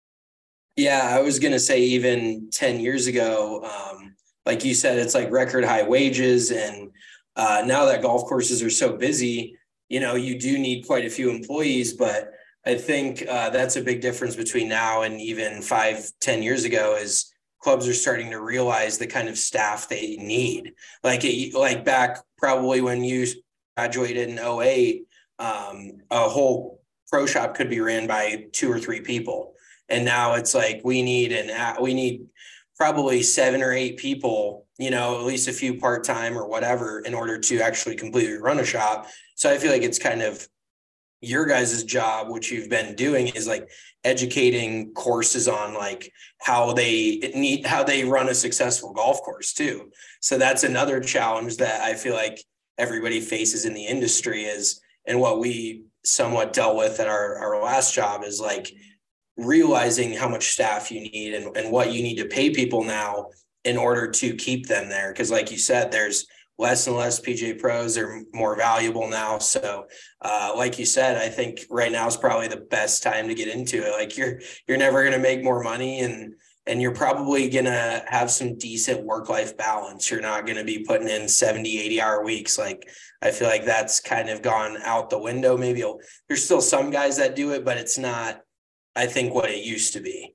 Yeah, I was going to say even ten years ago, um, like you said, it's like record high wages. And uh, now that golf courses are so busy, you know, you do need quite a few employees, but I think uh, that's a big difference between now and even five, ten years ago is clubs are starting to realize the kind of staff they need. Like, it, like back probably when you graduated in oh eight, um, a whole pro shop could be ran by two or three people. And now it's like, we need an, we need probably seven or eight people, you know, at least a few part-time or whatever, in order to actually completely run a shop. So I feel like it's kind of your guys' job, which you've been doing, is like educating courses on like how they need, how they run a successful golf course too. So that's another challenge that I feel like everybody faces in the industry is, and what we somewhat dealt with at our, our last job is like realizing how much staff you need and, and what you need to pay people now in order to keep them there. Cause like you said, there's less and less P G A pros, are more valuable now. So uh, like you said, I think right now is probably the best time to get into it. Like you're, you're never going to make more money, and, and you're probably going to have some decent work-life balance. You're not going to be putting in seventy, eighty hour weeks. Like, I feel like that's kind of gone out the window. Maybe there's still some guys that do it, but it's not, I think, what it used to be.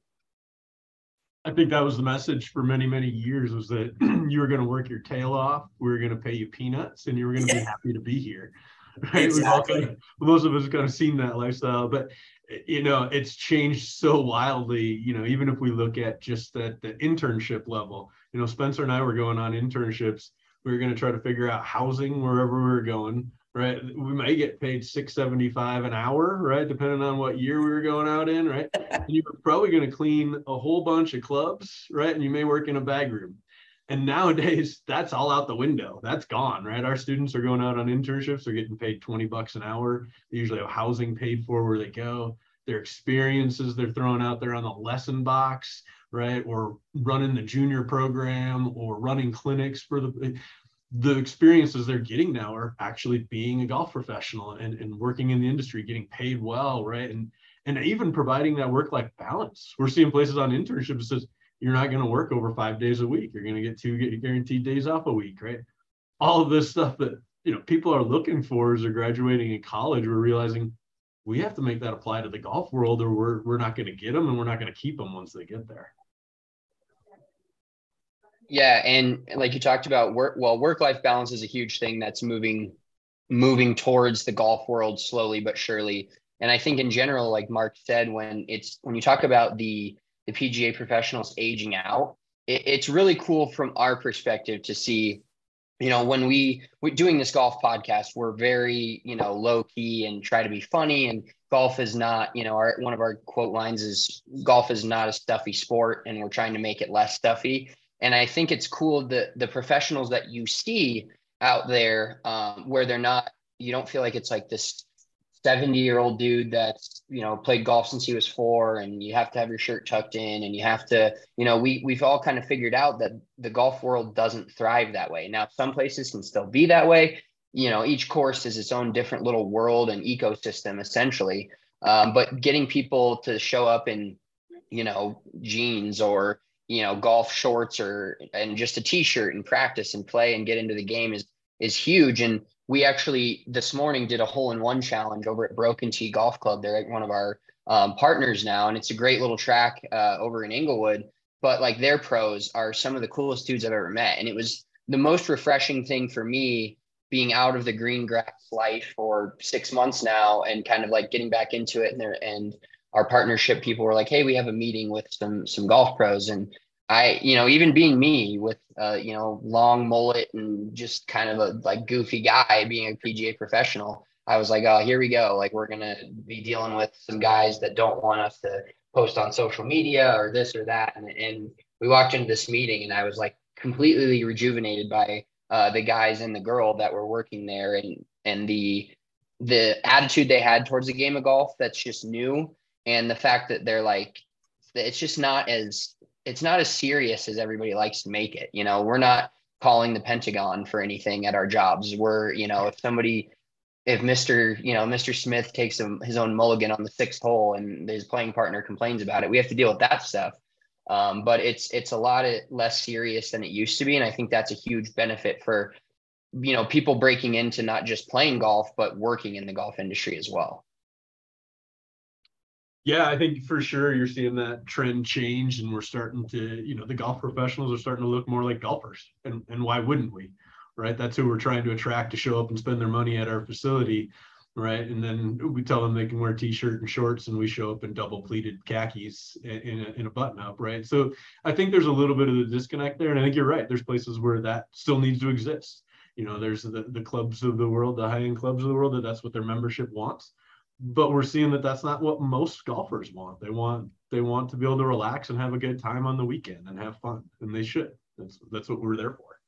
I think that was the message for many, many years, was that you were going to work your tail off. We were going to pay you peanuts, and you were going to yeah. be happy to be here. Right? Exactly. We've all kind of, most of us kind of seen that lifestyle, but you know, it's changed so wildly. You know, even if we look at just at the internship level, you know, Spencer and I were going on internships. We were going to try to figure out housing wherever we were going. Right, we may get paid six seventy-five an hour, right, depending on what year we were going out in, right. And you were probably going to clean a whole bunch of clubs, right, and you may work in a bag room. And nowadays, that's all out the window. That's gone, right? Our students are going out on internships. They're getting paid twenty bucks an hour. They usually have housing paid for where they go. Their experiences they're throwing out there on the lesson box, right, or running the junior program or running clinics for the. the experiences they're getting now are actually being a golf professional and, and working in the industry, getting paid well, right? And and even providing that work-life balance. We're seeing places on internships that says you're not going to work over five days a week. You're going to get two guaranteed days off a week, right? All of this stuff that, you know, people are looking for as they're graduating in college, we're realizing we have to make that apply to the golf world, or we're we're not going to get them, and we're not going to keep them once they get there. Yeah, and like you talked about, work well, work-life balance is a huge thing that's moving moving towards the golf world slowly but surely. And I think in general, like Mark said, when it's when you talk about the the P G A professionals aging out, it, it's really cool from our perspective to see, you know, when we we're doing this golf podcast, we're very, you know, low key and try to be funny. And golf is not, you know, our one of our quote lines is golf is not a stuffy sport, and we're trying to make it less stuffy. And I think it's cool that the professionals that you see out there, um, where they're not, you don't feel like it's like this seventy year old dude that's, you know, played golf since he was four, and you have to have your shirt tucked in, and you have to, you know, we, we've all kind of figured out that the golf world doesn't thrive that way. Now, some places can still be that way. You know, each course is its own different little world and ecosystem, essentially. Um, but getting people to show up in, you know, jeans or, you know, golf shorts or, and just a t-shirt and practice and play and get into the game is, is huge. And we actually this morning did a hole in one challenge over at Broken Tee Golf Club. They're one of our um, partners now, and it's a great little track uh, over in Inglewood. But like their pros are some of the coolest dudes I've ever met. And it was the most refreshing thing for me, being out of the green grass life for six months now and kind of like getting back into it. And there, and our partnership people were like, hey, we have a meeting with some some golf pros. And I, you know, even being me with, uh, you know, long mullet and just kind of a like goofy guy being a P G A professional, I was like, oh, here we go. Like, we're going to be dealing with some guys that don't want us to post on social media or this or that. And, and we walked into this meeting and I was like completely rejuvenated by uh, the guys and the girl that were working there, and, and the, the attitude they had towards the game of golf that's just new. And the fact that they're like, it's just not as, it's not as serious as everybody likes to make it. You know, we're not calling the Pentagon for anything at our jobs. We're, you know, if somebody, if Mister, you know, Mister Smith takes a, his own mulligan on the sixth hole and his playing partner complains about it, we have to deal with that stuff. Um, but it's, it's a lot of less serious than it used to be. And I think that's a huge benefit for, you know, people breaking into not just playing golf, but working in the golf industry as well. Yeah, I think for sure you're seeing that trend change, and we're starting to, you know, the golf professionals are starting to look more like golfers. And, and why wouldn't we, right? That's who we're trying to attract to show up and spend their money at our facility, right? And then we tell them they can wear t-shirt and shorts, and we show up in double pleated khakis in a, in a button up, right? So I think there's a little bit of the disconnect there. And I think you're right. There's places where that still needs to exist. You know, there's the, the clubs of the world, the high-end clubs of the world, that that's what their membership wants. But we're seeing that that's not what most golfers want. They want they want to be able to relax and have a good time on the weekend and have fun, and they should. That's that's what we're there for.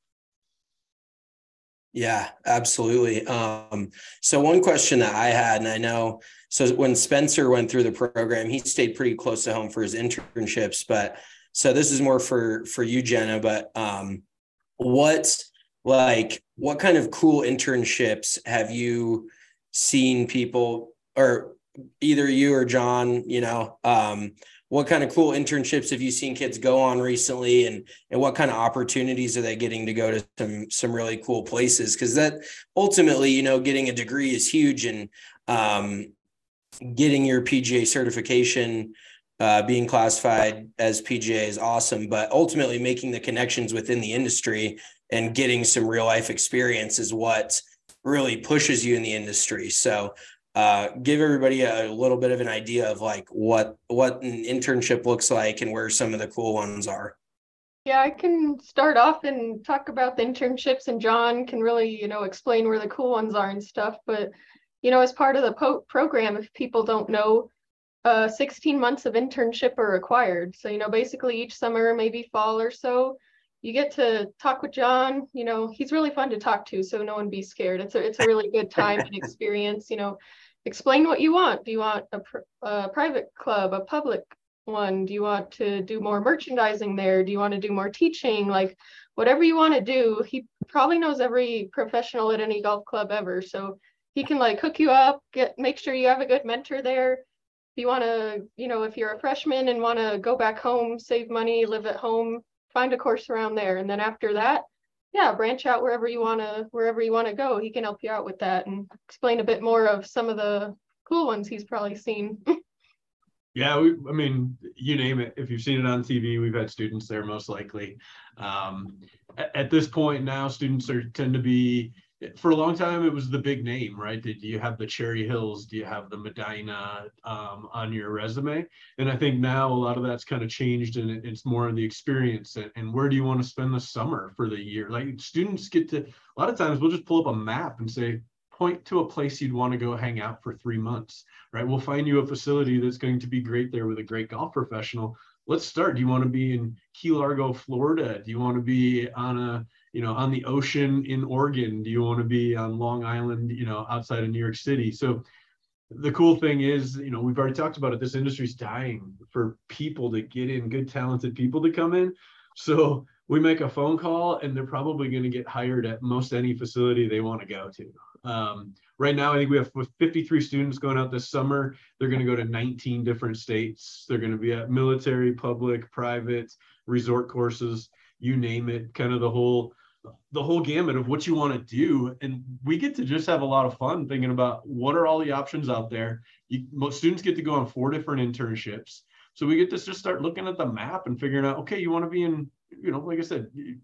Yeah, absolutely. Um, so one question that I had, and I know, so when Spencer went through the program, he stayed pretty close to home for his internships. But so this is more for for you, Jenna. But um, what like what kind of cool internships have you seen people, or either you or John, you know, um, what kind of cool internships have you seen kids go on recently, and, and what kind of opportunities are they getting to go to some, some really cool places? Cause that ultimately, you know, getting a degree is huge, and um, getting your P G A certification, uh, being classified as P G A is awesome, but ultimately making the connections within the industry and getting some real life experience is what really pushes you in the industry. So uh, give everybody a, a little bit of an idea of like what, what an internship looks like and where some of the cool ones are. Yeah, I can start off and talk about the internships, and John can really, you know, explain where the cool ones are and stuff. But, you know, as part of the po- program, if people don't know, uh, sixteen months of internship are required. So, you know, basically each summer, maybe fall or so, you get to talk with John. You know, he's really fun to talk to, so no one be scared. It's a, it's a really good time and experience. You know, explain what you want. Do you want a, pr- a private club, a public one? Do you want to do more merchandising there? Do you want to do more teaching? Like whatever you want to do, he probably knows every professional at any golf club ever. So he can like hook you up, get make sure you have a good mentor there. If you want to, you know, if you're a freshman and want to go back home, save money, live at home, find a course around there. And then after that, yeah, branch out wherever you want to, wherever you want to go. He can help you out with that and explain a bit more of some of the cool ones he's probably seen. Yeah, we, I mean, you name it. If you've seen it on T V, we've had students there most likely. Um, at, at this point now, students are tend to be, for a long time, it was the big name, right? Do you have the Cherry Hills? Do you have the Medina um, on your resume? And I think now a lot of that's kind of changed, and it, it's more of the experience. And, and where do you want to spend the summer for the year? Like students get to, a lot of times we'll just pull up a map and say, point to a place you'd want to go hang out for three months, right? We'll find you a facility that's going to be great there with a great golf professional. Let's start. Do you want to be in Key Largo, Florida? Do you want to be on a, you know, on the ocean in Oregon? Do you want to be on Long Island, you know, outside of New York City? So the cool thing is, you know, we've already talked about it. This industry's dying for people to get in, good, talented people to come in. So we make a phone call and they're probably going to get hired at most any facility they want to go to. Um, right now, I think we have fifty-three students going out this summer. They're going to go to nineteen different states. They're going to be at military, public, private, resort courses, you name it, kind of the whole, the whole gamut of what you want to do. And we get to just have a lot of fun thinking about what are all the options out there. You, most students get to go on four different internships. So we get to just start looking at the map and figuring out, okay, you want to be in, you know, like I said, you,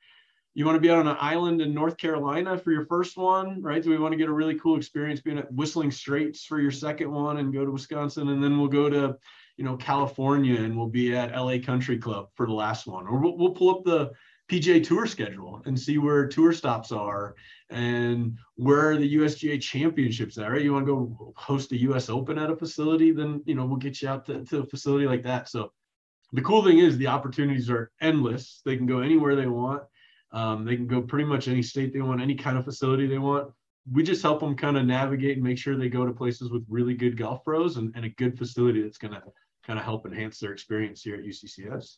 you want to be out on an island in North Carolina for your first one, right? Do we want to get a really cool experience being at Whistling Straits for your second one and go to Wisconsin? And then we'll go to, you know, California and we'll be at L A Country Club for the last one. Or we'll, we'll pull up the P G A Tour schedule and see where tour stops are and where the U S G A championships are, right? You want to go host a U S Open at a facility, then, you know, we'll get you out to, to a facility like that. So the cool thing is the opportunities are endless. They can go anywhere they want. Um, they can go pretty much any state they want, any kind of facility they want. We just help them kind of navigate and make sure they go to places with really good golf pros and, and a good facility that's going to kind of help enhance their experience here at U C C S.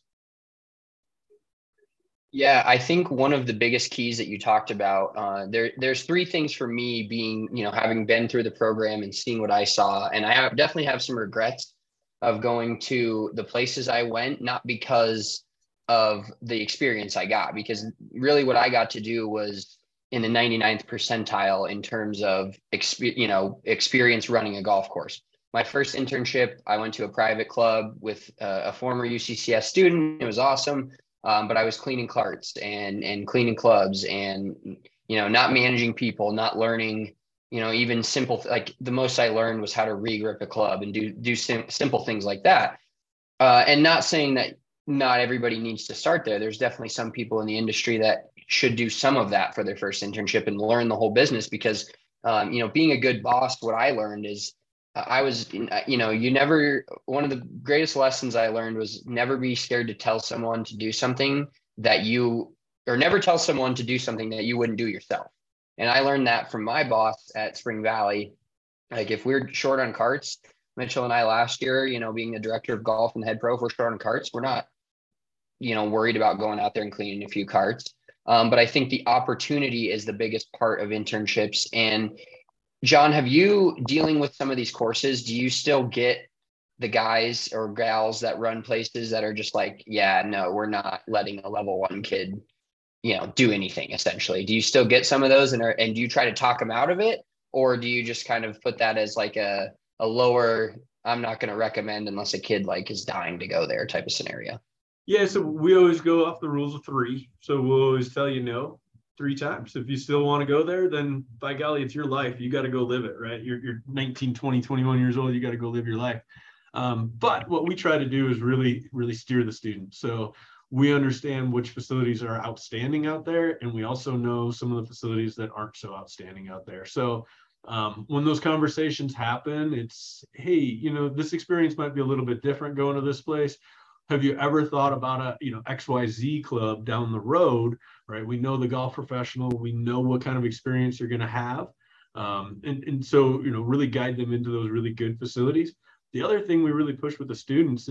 Yeah, I think one of the biggest keys that you talked about, uh, there, there's three things for me being, you know, having been through the program and seeing what I saw. And I have, definitely have some regrets of going to the places I went, not because of the experience I got, because really what I got to do was in the ninety-ninth percentile in terms of, exp- you know, experience running a golf course. My first internship, I went to a private club with a, a former U C C S student. It was awesome. Um, but I was cleaning carts and, and cleaning clubs and, you know, not managing people, not learning, you know, even simple, like the most I learned was how to re-grip a club and do, do sim- simple things like that. Uh, and not saying that not everybody needs to start there. There's definitely some people in the industry that should do some of that for their first internship and learn the whole business because, um, you know, being a good boss, what I learned is I was, you know, you never, one of the greatest lessons I learned was never be scared to tell someone to do something that you, or never tell someone to do something that you wouldn't do yourself. And I learned that from my boss at Spring Valley. Like if we're short on carts, Mitchell and I last year, you know, being the director of golf and the head pro, if we're short on carts, we're not, you know, worried about going out there and cleaning a few carts. Um, but I think the opportunity is the biggest part of internships. And John, have you dealing with some of these courses? Do you still get the guys or gals that run places that are just like, yeah, no, we're not letting a level one kid, you know, do anything essentially? Do you still get some of those and are, and do you try to talk them out of it? Or do you just kind of put that as like a, a lower, I'm not going to recommend unless a kid like is dying to go there type of scenario? Yeah. So we always go off the rules of three. So we'll always tell you no three times. If you still want to go there, then by golly, it's your life. You got to go live it, right? You're, you're nineteen, twenty, twenty-one years old. You got to go live your life. Um, but what we try to do is really, really steer the student. So we understand which facilities are outstanding out there. And we also know some of the facilities that aren't so outstanding out there. So um, when those conversations happen, it's, hey, you know, this experience might be a little bit different going to this place. Have you ever thought about a, you know, X Y Z club down the road, right? We know the golf professional, we know what kind of experience you're going to have. Um, and, and so, you know, really guide them into those really good facilities. The other thing we really push with the students is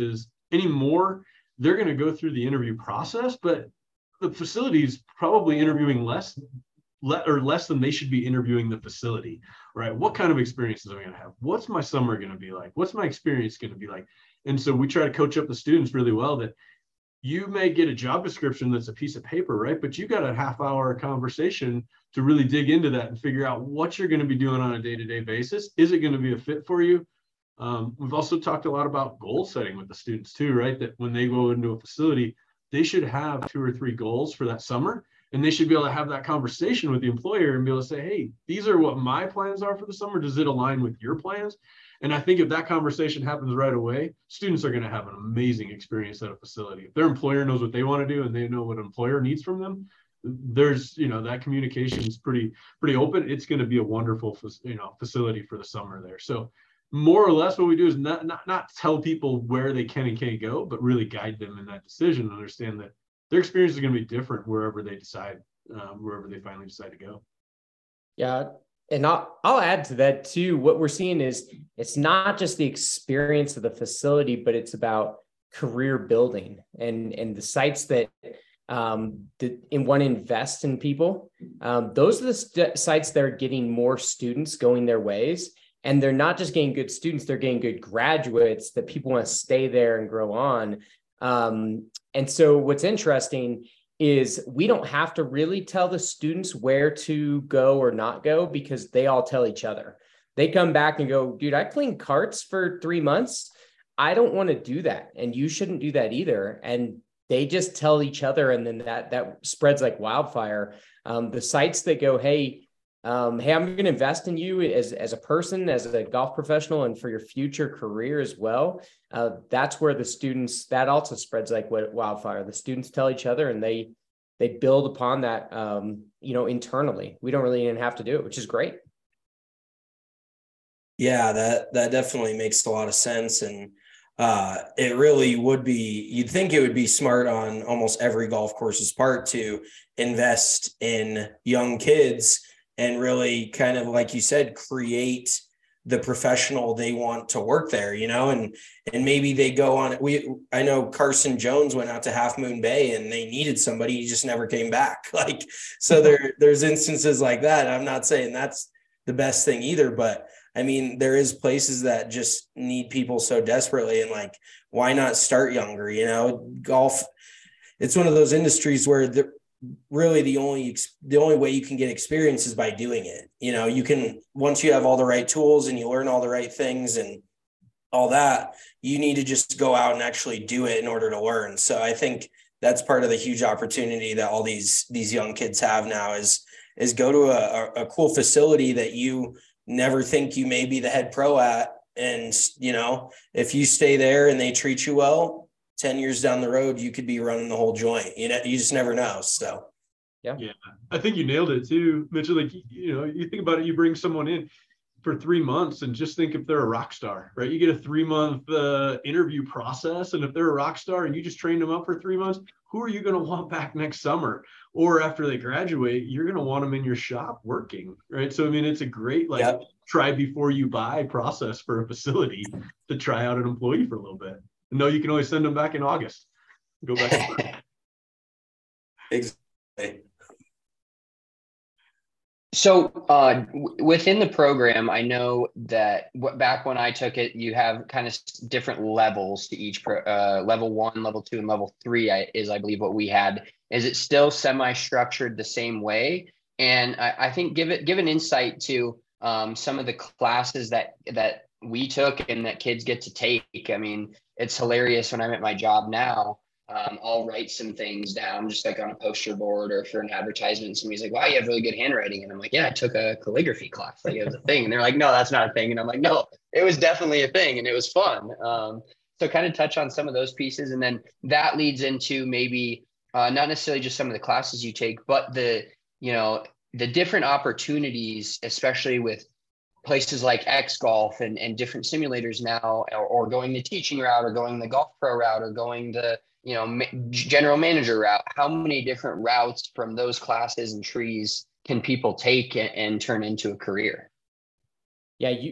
anymore, they're going to go through the interview process, but the facility is probably interviewing less, le- or less than they should be interviewing the facility, right? What kind of experiences am I going to have? What's my summer going to be like? What's my experience going to be like? And so we try to coach up the students really well that you may get a job description that's a piece of paper, right? But you got a half hour conversation to really dig into that and figure out what you're going to be doing on a day-to-day basis. Is it going to be a fit for you? Um, we've also talked a lot about goal setting with the students too, right? That when they go into a facility, they should have two or three goals for that summer. And they should be able to have that conversation with the employer and be able to say, hey, these are what my plans are for the summer. Does it align with your plans? And I think if that conversation happens right away, students are going to have an amazing experience at a facility. If their employer knows what they want to do and they know what an employer needs from them, there's, you know, that communication is pretty, pretty open. It's going to be a wonderful, you know, facility for the summer there. So more or less what we do is not, not, not tell people where they can and can't go, but really guide them in that decision and understand that their experience is going to be different wherever they decide, um, wherever they finally decide to go. Yeah. And I'll, I'll add to that too. What we're seeing is it's not just the experience of the facility, but it's about career building and, and the sites that um, the, and want to invest in people. Um, those are the st- sites that are getting more students going their ways. And they're not just getting good students, they're getting good graduates that people want to stay there and grow on. Um, and so what's interesting is we don't have to really tell the students where to go or not go because they all tell each other. They come back and go, dude, I cleaned carts for three months. I don't want to do that. And you shouldn't do that either. And they just tell each other. And then that, that spreads like wildfire. Um, the sites that go, hey, Um, hey, I'm going to invest in you as, as a person, as a golf professional, and for your future career as well. Uh, that's where the students, that also spreads like wildfire. The students tell each other and they, they build upon that, um, you know, internally. We don't really even have to do it, which is great. Yeah, that, that definitely makes a lot of sense. And uh, it really would be, you'd think it would be smart on almost every golf course's part to invest in young kids and really kind of, like you said, create the professional they want to work there, you know, and, and maybe they go on, we, I know Carson Jones went out to Half Moon Bay and they needed somebody, he just never came back. Like, so there, there's instances like that. I'm not saying that's the best thing either, but I mean, there is places that just need people so desperately, and like, why not start younger? You know, golf, it's one of those industries where the, really the only the only way you can get experience is by doing it. You know, you can, once you have all the right tools and you learn all the right things and all that, you need to just go out and actually do it in order to learn. So I think that's part of the huge opportunity that all these these young kids have now is is go to a, a cool facility that you never think you may be the head pro at. And, you know, if you stay there and they treat you well, ten years down the road, you could be running the whole joint. You know, you just never know. So, yeah. Yeah. I think you nailed it too, Mitchell. Like, you know, you think about it, you bring someone in for three months and just think if they're a rock star, right? You get a three month uh, interview process. And if they're a rock star and you just trained them up for three months, who are you going to want back next summer? Or after they graduate, you're going to want them in your shop working, right? So, I mean, it's a great, like, yep. try before you buy process for a facility to try out an employee for a little bit. No, you can always send them back in August. Go back to work. Exactly. So uh, w- within the program, I know that w- back when I took it, you have kind of different levels to each pro- uh, level one, level two, and level three I, is, I believe, what we had. Is it still semi-structured the same way? And I, I think give it give an insight to um, some of the classes that that we took and that kids get to take. I mean, it's hilarious when I'm at my job now. Um, I'll write some things down just like on a poster board or for an advertisement. And somebody's like, wow, you have really good handwriting. And I'm like, yeah, I took a calligraphy class. Like, it was a thing. And they're like, no, that's not a thing. And I'm like, no, it was definitely a thing. And it was fun. Um, so kind of touch on some of those pieces. And then that leads into maybe uh, not necessarily just some of the classes you take, but the, you know, the different opportunities, especially with places like X Golf and, and different simulators now, or, or going the teaching route or going the golf pro route or going the, you know, ma- general manager route. How many different routes from those classes and trees can people take and, and turn into a career? Yeah, you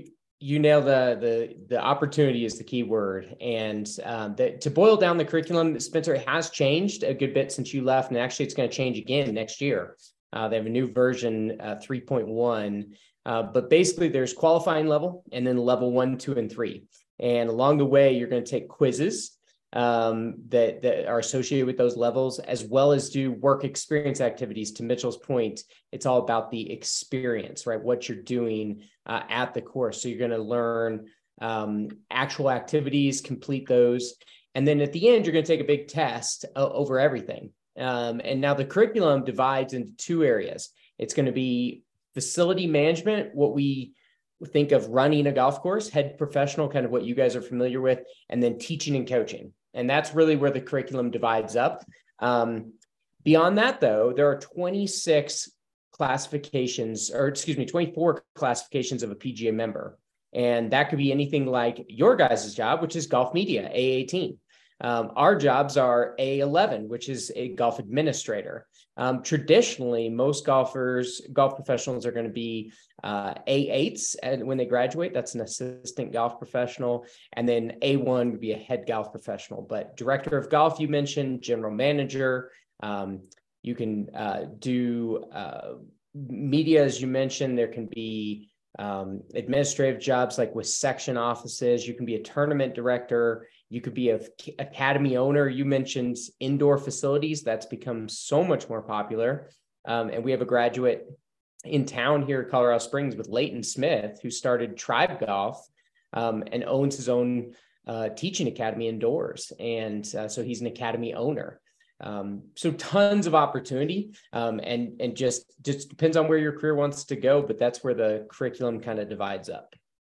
you nail the the the opportunity is the key word. And um, the, to boil down the curriculum, Spencer, it has changed a good bit since you left, and actually it's going to change again next year. Uh, they have a new version, uh, three point one, uh, but basically there's qualifying level and then level one, two, and three. And along the way, you're going to take quizzes um, that, that are associated with those levels, as well as do work experience activities. To Mitchell's point, it's all about the experience, right? What you're doing uh, at the course. So you're going to learn um, actual activities, complete those. And then at the end, you're going to take a big test uh, over everything. Um, and now the curriculum divides into two areas. It's going to be facility management, what we think of running a golf course, head professional, kind of what you guys are familiar with, and then teaching and coaching. And that's really where the curriculum divides up. Um, beyond that, though, there are twenty-six classifications, or excuse me, twenty-four classifications of a P G A member. And that could be anything like your guys' job, which is golf media, A eighteen. Um, our jobs are A eleven, which is a golf administrator. Um, traditionally, most golfers, golf professionals are going to be uh, A eights and when they graduate. That's an assistant golf professional. And then A one would be a head golf professional. But director of golf, you mentioned, general manager. Um, you can uh, do uh, media, as you mentioned. There can be um, administrative jobs like with section offices. You can be a tournament director. You could be a academy owner. You mentioned indoor facilities. That's become so much more popular. Um, and we have a graduate in town here at Colorado Springs with Leighton Smith, who started Tribe Golf um, and owns his own uh, teaching academy indoors. And uh, so he's an academy owner. Um, so tons of opportunity um, and, and just, just depends on where your career wants to go, but that's where the curriculum kind of divides up.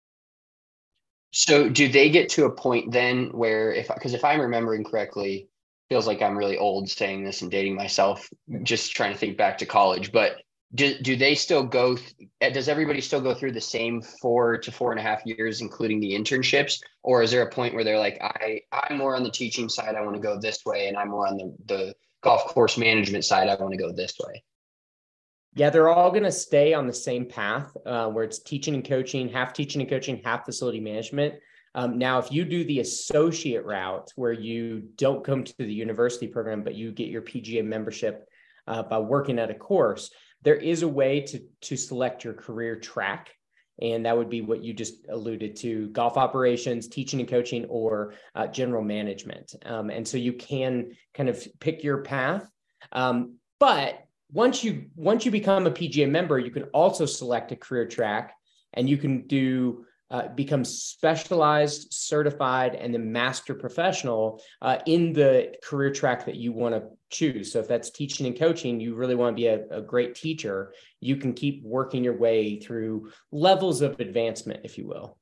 So do they get to a point then where if, because if I'm remembering correctly, feels like I'm really old saying this and dating myself, just trying to think back to college, but do, do they still go, th- does everybody still go through the same four to four and a half years, including the internships? Or is there a point where they're like, I, I'm more on the teaching side, I want to go this way. And I'm more on the, the golf course management side, I want to go this way. Yeah, they're all going to stay on the same path uh, where it's teaching and coaching, half teaching and coaching, half facility management. Um, now, if you do the associate route where you don't come to the university program, but you get your P G A membership uh, by working at a course, there is a way to, to select your career track. And that would be what you just alluded to: golf operations, teaching and coaching, or uh, general management. Um, and so you can kind of pick your path. Um, but Once you once you become a P G A member, you can also select a career track, and you can do uh, become specialized, certified, and then master professional uh, in the career track that you want to choose. So if that's teaching and coaching, you really want to be a, a great teacher, you can keep working your way through levels of advancement, if you will.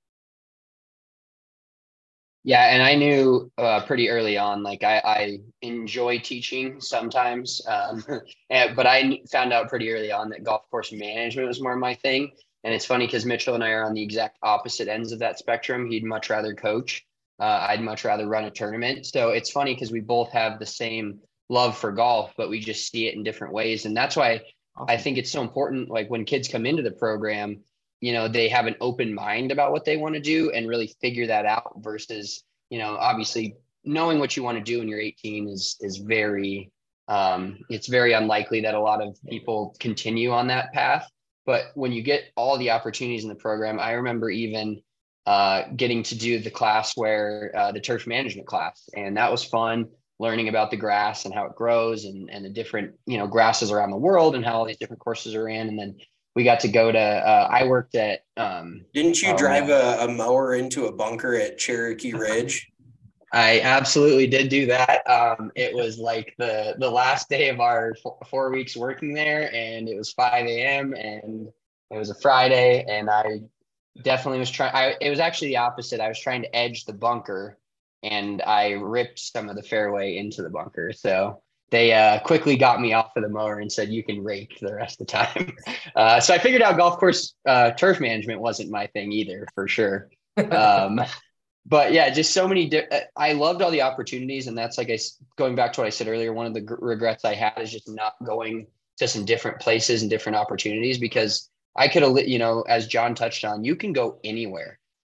Yeah, and I knew uh, pretty early on, like I, I enjoy teaching sometimes, um, and, but I found out pretty early on that golf course management was more my thing. And it's funny because Mitchell and I are on the exact opposite ends of that spectrum. He'd much rather coach. Uh, I'd much rather run a tournament. So it's funny because we both have the same love for golf, but we just see it in different ways. And that's why I think it's so important. Like when kids come into the program, you know, they have an open mind about what they want to do and really figure that out versus, you know, obviously knowing what you want to do when you're eighteen is, is very, um, it's very unlikely that a lot of people continue on that path. But when you get all the opportunities in the program, I remember even uh, getting to do the class where uh, the turf management class, and that was fun, learning about the grass and how it grows and, and the different, you know, grasses around the world and how all these different courses are in. And then we got to go to, uh, I worked at. Um, Didn't you um, drive a, a mower into a bunker at Cherokee Ridge? I absolutely did do that. Um, it was like the, the last day of our four, four weeks working there, and it was five a.m. and it was a Friday, and I definitely was trying, it was actually the opposite. I was trying to edge the bunker, and I ripped some of the fairway into the bunker. So they uh, quickly got me off of the mower and said, you can rake the rest of the time. Uh, so I figured out golf course uh, turf management wasn't my thing either, for sure. Um, but yeah, just so many, di- I loved all the opportunities. And that's like, I, going back to what I said earlier, one of the g- regrets I had is just not going to some different places and different opportunities, because I could have, you know, as John touched on, you can go anywhere.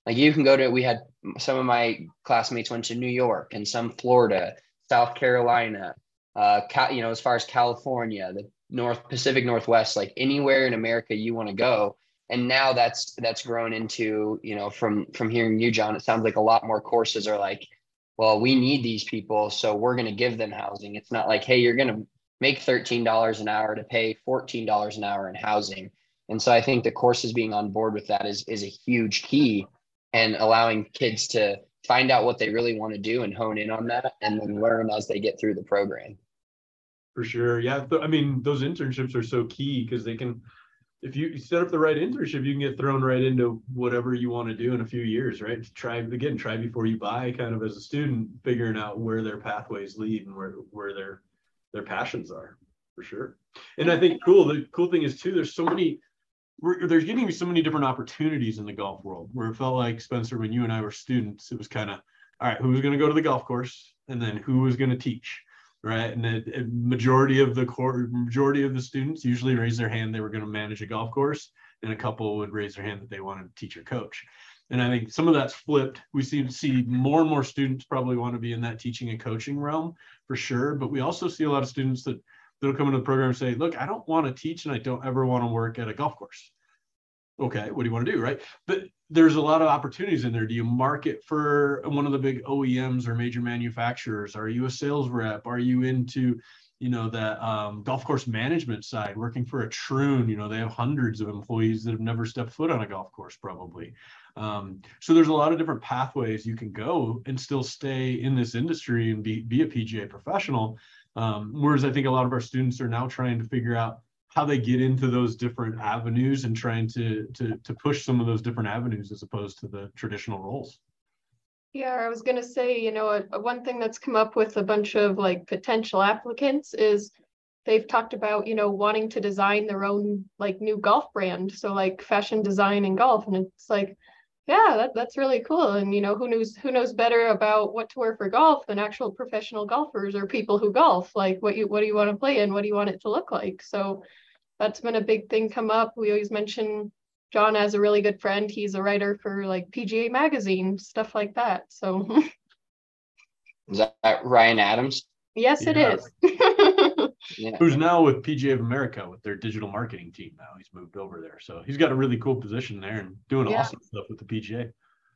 Like you can go to, we had some of my classmates went to New York and some Florida, South Carolina, uh, you know, as far as California, the North Pacific Northwest, like anywhere in America you want to go. And now that's, that's grown into, you know, from, from hearing you, John, it sounds like a lot more courses are like, well, we need these people, so we're going to give them housing. It's not like, hey, you're going to make thirteen dollars an hour to pay fourteen dollars an hour in housing. And so I think the courses being on board with that is, is a huge key, and allowing kids to find out what they really want to do and hone in on that and then learn as they get through the program. For sure. Yeah. I mean, those internships are so key because they can, if you set up the right internship, you can get thrown right into whatever you want to do in a few years, right? Try again, try before you buy, kind of as a student, figuring out where their pathways lead and where, where their, their passions are, for sure. And I think cool, the cool thing is too, there's so many, we're, there's getting so many different opportunities in the golf world, where it felt like, Spencer, when you and I were students, it was kind of, all right, who's going to go to the golf course and then who was going to teach? Right. And the majority of the core, majority of the students usually raise their hand they were going to manage a golf course, and a couple would raise their hand that they wanted to teach or coach. And I think some of that's flipped. We see see more and more students probably want to be in that teaching and coaching realm for sure. But we also see a lot of students that that'll come into the program and say, look, I don't want to teach and I don't ever want to work at a golf course. Okay, what do you want to do, right? But there's a lot of opportunities in there. Do you market for one of the big O E Ms or major manufacturers? Are you a sales rep? Are you into, you know, that um, golf course management side, working for a Troon? You know, they have hundreds of employees that have never stepped foot on a golf course probably. Um, so there's a lot of different pathways you can go and still stay in this industry and be, be a P G A professional. Um, whereas I think a lot of our students are now trying to figure out how they get into those different avenues and trying to, to, to push some of those different avenues as opposed to the traditional roles. Yeah, I was going to say, you know, a, a one thing that's come up with a bunch of like potential applicants is they've talked about, you know, wanting to design their own like new golf brand. So like fashion design in golf. And it's like, yeah, that, that's really cool. And, you know, who knows, who knows better about what to wear for golf than actual professional golfers or people who golf? Like what you, what do you want to play in? What do you want it to look like? So that's been a big thing come up. We always mention John as a really good friend. He's a writer for like P G A Magazine, stuff like that. So is that Ryan Adams? Yes, it yeah. is. Yeah. Who's now with P G A of America with their digital marketing team now. He's moved over there. So he's got a really cool position there and doing yeah. awesome stuff with the P G A.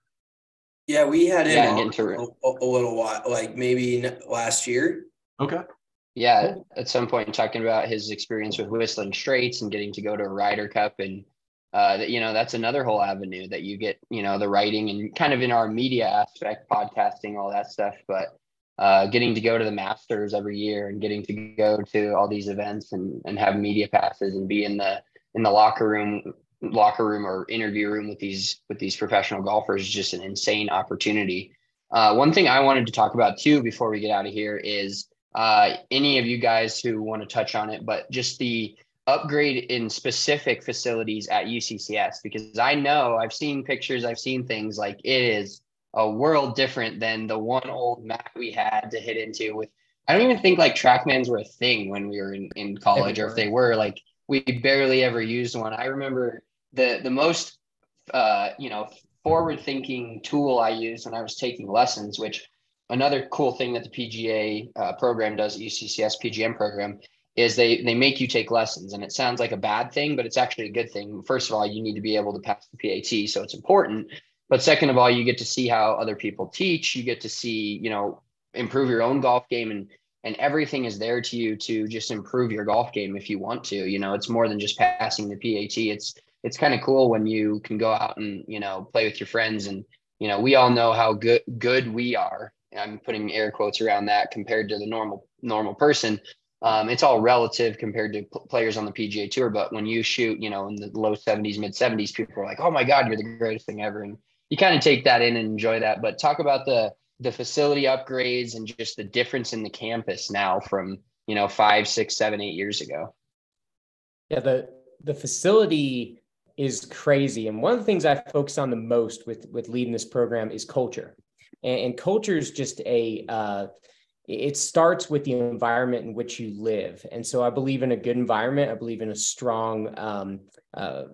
Yeah, we had him yeah, on a, a little while, like maybe last year. Okay. Yeah, at some point talking about his experience with Whistling Straits and getting to go to a Ryder Cup. And, uh, you know, that's another whole avenue that you get, you know, the writing and kind of in our media aspect, podcasting, all that stuff. But uh, getting to go to the Masters every year and getting to go to all these events and, and have media passes and be in the in the locker room, locker room or interview room with these with these professional golfers is just an insane opportunity. Uh, one thing I wanted to talk about, too, before we get out of here is uh, any of you guys who want to touch on it, but just the upgrade in specific facilities at U C C S, because I know I've seen pictures, I've seen things like it is a world different than the one old mat we had to hit into with. I don't even think like TrackMans were a thing when we were in, in college, or if they were, like we barely ever used one. I remember the, the most, uh, you know, forward thinking tool I used when I was taking lessons, which another cool thing that the P G A uh, program does, U C C S P G M program, is they they make you take lessons. And it sounds like a bad thing, but it's actually a good thing. First of all, you need to be able to pass the P A T, so it's important. But second of all, you get to see how other people teach. You get to see, you know, improve your own golf game, and and everything is there to you to just improve your golf game if you want to. You know, it's more than just passing the P A T. It's it's kind of cool when you can go out and, you know, play with your friends. And, you know, we all know how good good we are. I'm putting air quotes around that compared to the normal normal person. Um, it's all relative compared to p- players on the P G A Tour. But when you shoot, you know, in the low seventies, mid seventies, people are like, oh my God, you're the greatest thing ever. And you kind of take that in and enjoy that. But talk about the the facility upgrades and just the difference in the campus now from, you know, five, six, seven, eight years ago. Yeah, the the facility is crazy. And one of the things I focus on the most with, with leading this program is culture. And, and culture is just a, uh, it starts with the environment in which you live. And so I believe in a good environment. I believe in a strong, um, uh,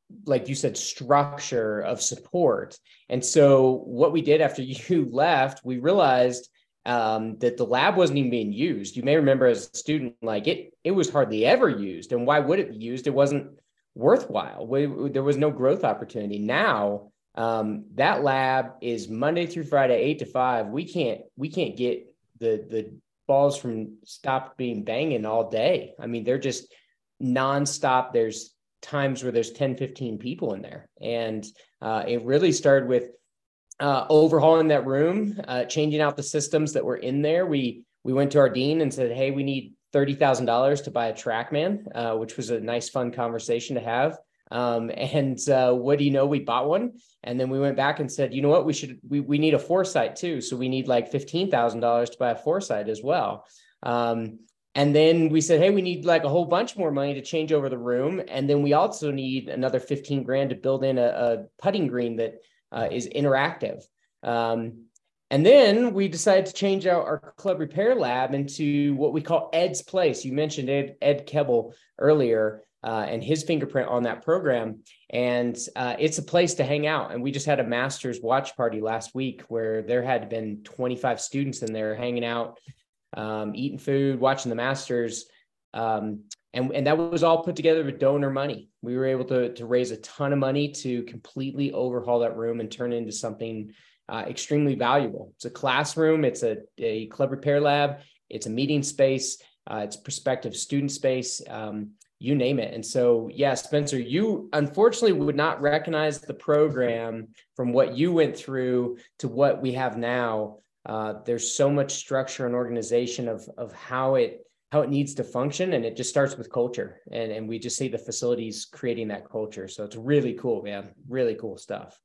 like you said, structure of support. And so what we did after you left, we realized um, that the lab wasn't even being used. You may remember as a student, like it, it was hardly ever used. And why would it be used? It wasn't worthwhile. We, there was no growth opportunity. Now um, that lab is Monday through Friday, eight to five. We can't, we can't get the, the balls from stop being banging all day. I mean, they're just nonstop. There's times where there's ten, fifteen people in there. And uh, it really started with uh, overhauling that room, uh, changing out the systems that were in there. We, we went to our dean and said, hey, we need thirty thousand dollars to buy a TrackMan, uh, which was a nice, fun conversation to have. Um, and uh, what do you know? We bought one. And then we went back and said, you know what, we should, we, we need a Foresight too. So we need like fifteen thousand dollars to buy a Foresight as well. Um, and then we said, hey, we need like a whole bunch more money to change over the room. And then we also need another fifteen grand to build in a, a putting green that uh, is interactive. Um, And then we decided to change out our club repair lab into what we call Ed's Place. You mentioned Ed, Ed Kebbel earlier uh, and his fingerprint on that program. And uh, it's a place to hang out. And we just had a master's watch party last week where there had been twenty-five students in there hanging out, um, eating food, watching the masters. Um, and, and that was all put together with donor money. We were able to, to raise a ton of money to completely overhaul that room and turn it into something Uh, extremely valuable. It's a classroom, it's a, a club repair lab, it's a meeting space, uh, it's prospective student space, um, you name it. And so, yeah, Spencer, you unfortunately would not recognize the program from what you went through to what we have now. Uh, there's so much structure and organization of, of how it how it needs to function. And it just starts with culture. And, and we just see the facilities creating that culture. So it's really cool, man. Really cool stuff.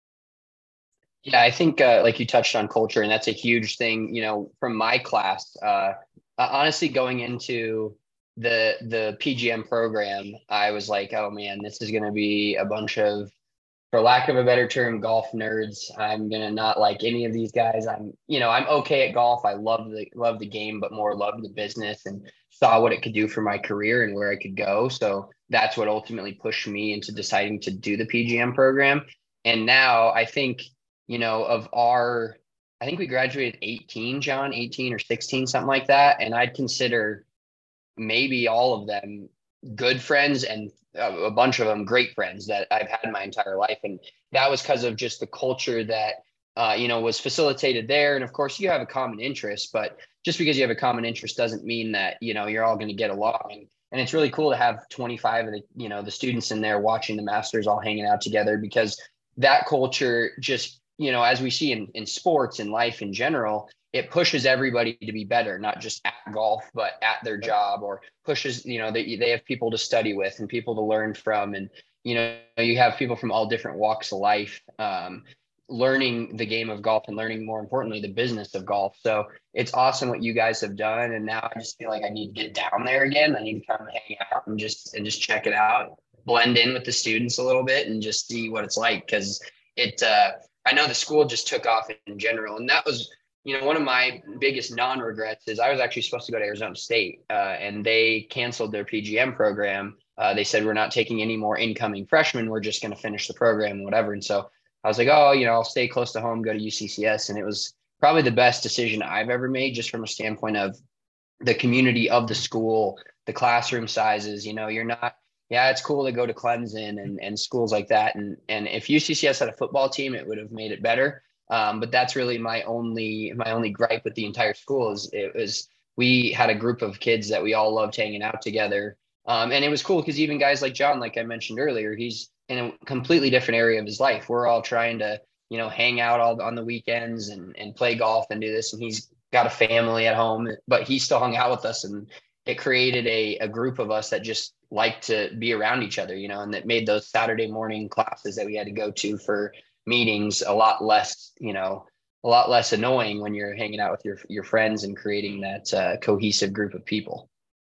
Yeah, I think uh, like you touched on culture, and that's a huge thing, you know, from my class. Uh, uh, honestly, going into the the P G M program, I was like, oh man, this is going to be a bunch of, for lack of a better term, golf nerds. I'm going to not like any of these guys. I'm, you know, I'm okay at golf. I love the love the game, but more love the business, and saw what it could do for my career and where I could go. So that's what ultimately pushed me into deciding to do the P G M program. And now I think, you know, of our, I think we graduated eighteen, John, eighteen or sixteen, something like that. And I'd consider maybe all of them good friends and a, a bunch of them great friends that I've had my entire life. And that was because of just the culture that, uh, you know, was facilitated there. And of course you have a common interest, but just because you have a common interest doesn't mean that, you know, you're all going to get along. And, and it's really cool to have twenty-five of the, you know, the students in there watching the masters all hanging out together, because that culture just, you know, as we see in, in sports and life in general, it pushes everybody to be better, not just at golf, but at their job, or pushes, you know, they, they have people to study with and people to learn from. And, you know, you have people from all different walks of life, um, learning the game of golf and learning, more importantly, the business of golf. So it's awesome what you guys have done. And now I just feel like I need to get down there again. I need to come hang out and just, and just check it out, blend in with the students a little bit and just see what it's like. Cause it, uh, I know the school just took off in general. And that was, you know, one of my biggest non-regrets is I was actually supposed to go to Arizona State uh, and they canceled their P G M program. Uh, they said, we're not taking any more incoming freshmen. We're just going to finish the program and whatever. And so I was like, oh, you know, I'll stay close to home, go to U C C S. And it was probably the best decision I've ever made, just from a standpoint of the community of the school, the classroom sizes. You know, you're not, yeah, it's cool to go to Clemson and, and schools like that. And, and if U C C S had a football team, it would have made it better. Um, but that's really my only, my only gripe with the entire school is it was, we had a group of kids that we all loved hanging out together. Um, and it was cool because even guys like John, like I mentioned earlier, he's in a completely different area of his life. We're all trying to, you know, hang out all on the weekends and, and play golf and do this. And he's got a family at home, but he still hung out with us. And it created a, a group of us that just liked to be around each other, you know, and that made those Saturday morning classes that we had to go to for meetings a lot less, you know, a lot less annoying when you're hanging out with your, your friends and creating that uh, cohesive group of people.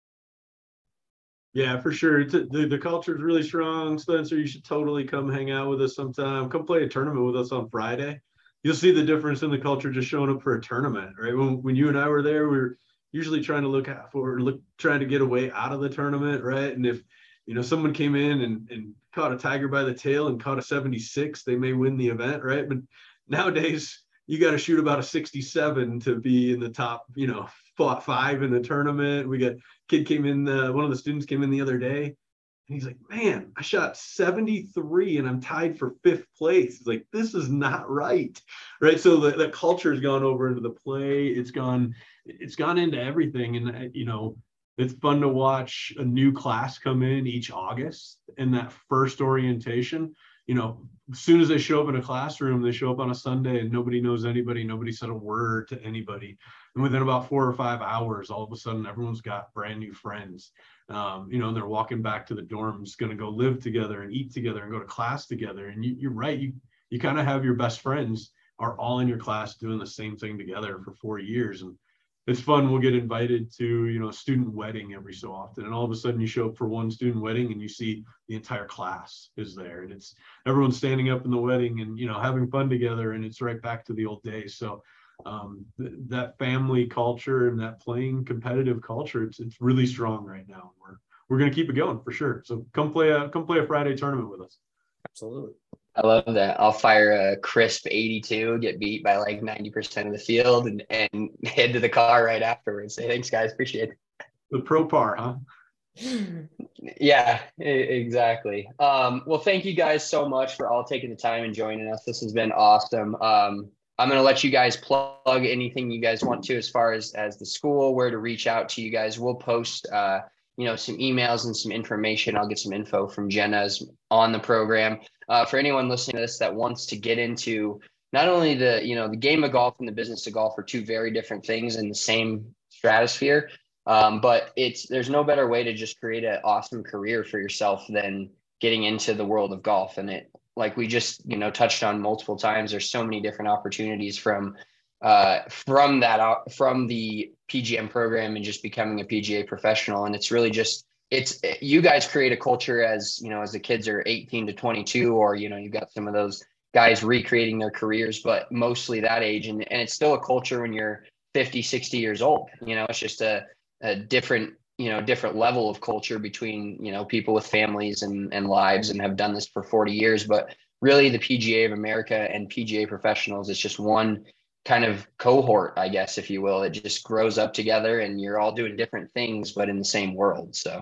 Yeah, for sure. The, the culture is really strong. Spencer, you should totally come hang out with us sometime. Come play a tournament with us on Friday. You'll see the difference in the culture just showing up for a tournament, right? When, when you and I were there, we were usually trying to look out for, look, trying to get away out of the tournament, right? And if you know, someone came in and, and caught a tiger by the tail and caught a seventy-six, they may win the event, right? But nowadays, you got to shoot about a sixty-seven to be in the top, you know, five in the tournament. We got kid came in, uh, one of the students came in the other day, and he's like, man, I shot seventy-three and I'm tied for fifth place. It's like, this is not right. Right. So the, the culture has gone over into the play. It's gone, it's gone into everything. And, you know, it's fun to watch a new class come in each August, and that first orientation, you know, as soon as they show up in a classroom, they show up on a Sunday and nobody knows anybody. Nobody said a word to anybody. And within about four or five hours, all of a sudden, everyone's got brand new friends. Um, you know, they're walking back to the dorms, going to go live together and eat together and go to class together. And you, you're right. You, you kind of have your best friends are all in your class doing the same thing together for four years. And it's fun. We'll get invited to, you know, a student wedding every so often. And all of a sudden you show up for one student wedding and you see the entire class is there. And it's everyone standing up in the wedding and, you know, having fun together. And it's right back to the old days. So um, th- that family culture and that playing competitive culture, it's it's really strong right now. We're we're going to keep it going for sure. So come play a, come play a Friday tournament with us. Absolutely. I love that. I'll fire a crisp eighty-two, get beat by like ninety percent of the field, and, and head to the car right afterwards. Say, thanks, guys. Appreciate it. The pro par, huh? Yeah, exactly. Um, well, thank you guys so much for all taking the time and joining us. This has been awesome. Um, I'm going to let you guys plug anything you guys want to as far as, as the school, where to reach out to you guys. We'll post, uh, you know, some emails and some information. I'll get some info from Jenna's on the program. Uh, for anyone listening to this that wants to get into not only the, you know, the game of golf and the business of golf are two very different things in the same stratosphere. Um, but it's, there's no better way to just create an awesome career for yourself than getting into the world of golf. And it, like we just, you know, touched on multiple times, there's so many different opportunities from, uh, from that, from the P G M program and just becoming a P G A professional. And it's really just, it's, you guys create a culture as, you know, as the kids are eighteen to twenty-two, or, you know, you've got some of those guys recreating their careers, but mostly that age. And, and it's still a culture when you're fifty, sixty years old. You know, it's just a, a different, you know, different level of culture between, you know, people with families and, and lives and have done this for forty years. But really the P G A of America and P G A professionals, it's just one kind of cohort, I guess, if you will. It just grows up together and you're all doing different things, but in the same world. So.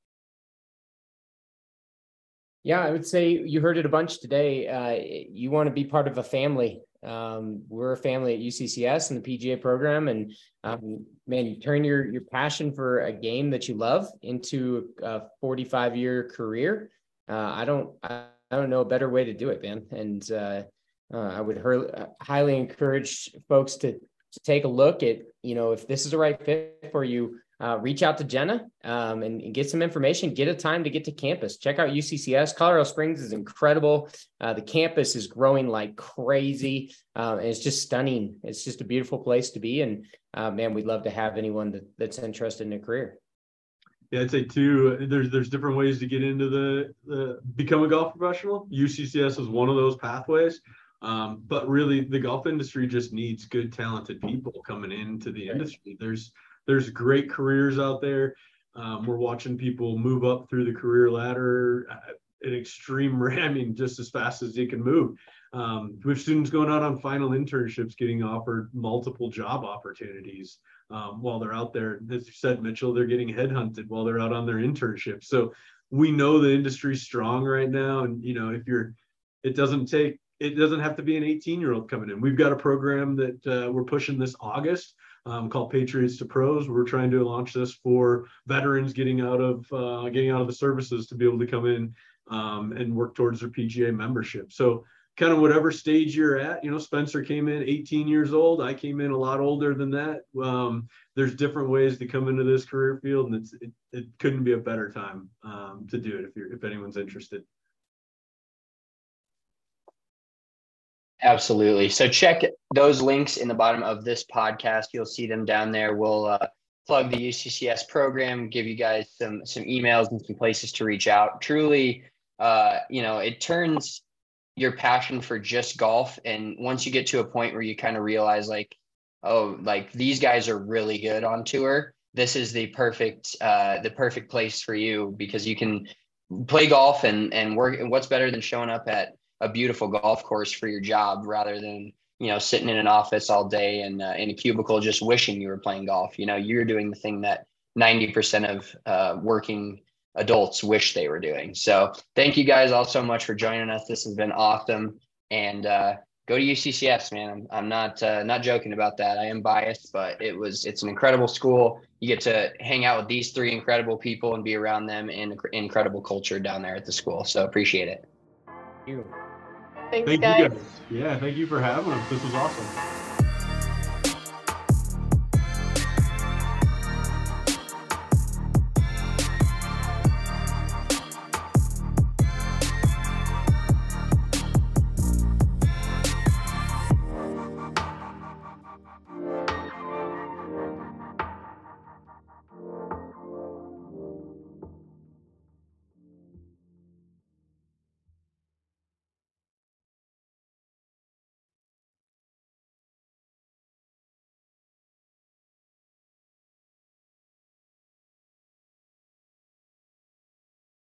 Yeah, I would say you heard it a bunch today. Uh, you want to be part of a family. Um, we're a family at U C C S and the P G A program. And um, man, you turn your, your passion for a game that you love into a forty-five year career. Uh, I don't, I, I don't know a better way to do it, man. And uh, uh, I would her- highly encourage folks to, to take a look at, you know, if this is the right fit for you. Uh, reach out to Jenna um, and, and get some information, get a time to get to campus. Check out U C C S. Colorado Springs is incredible. Uh, the campus is growing like crazy. Uh, and it's just stunning. It's just a beautiful place to be. And uh, man, we'd love to have anyone that, that's interested in a career. Yeah, I'd say too, there's, there's different ways to get into the, the become a golf professional. U C C S is one of those pathways. Um, but really the golf industry just needs good, talented people coming into the industry. There's, There's great careers out there. Um, we're watching people move up through the career ladder at an extreme rate. I mean, just as fast as they can move. Um, we have students going out on final internships, getting offered multiple job opportunities um, while they're out there. As you said, Mitchell, they're getting headhunted while they're out on their internship. So we know the industry's strong right now. And, you know, if you're, it doesn't take, it doesn't have to be an eighteen year old coming in. We've got a program that uh, we're pushing this August. Um, called Patriots to Pros. We're trying to launch this for veterans getting out of uh, getting out of the services to be able to come in um, and work towards their P G A membership. So kind of whatever stage you're at, you know, Spencer came in eighteen years old. I came in a lot older than that. Um, there's different ways to come into this career field, and it's, it, it couldn't be a better time um, to do it if you're if anyone's interested. Absolutely. So check those links in the bottom of this podcast. You'll see them down there. We'll uh, plug the U C C S program, give you guys some some emails and some places to reach out. Truly, uh, you know, it turns your passion for just golf. And once you get to a point where you kind of realize like, oh, like these guys are really good on tour, this is the perfect uh, the perfect place for you, because you can play golf and, and work. And what's better than showing up at a beautiful golf course for your job rather than, you know, sitting in an office all day and uh, in a cubicle, just wishing you were playing golf. You know, you're doing the thing that ninety percent of uh, working adults wish they were doing. So thank you guys all so much for joining us. This has been awesome. And uh, go to U C C S, man. I'm, I'm not, uh, not joking about that. I am biased, but it was, it's an incredible school. You get to hang out with these three incredible people and be around them in incredible culture down there at the school. So appreciate it. Thank you. Thanks, Thank guys. you guys. Yeah, thank you for having us. This was awesome.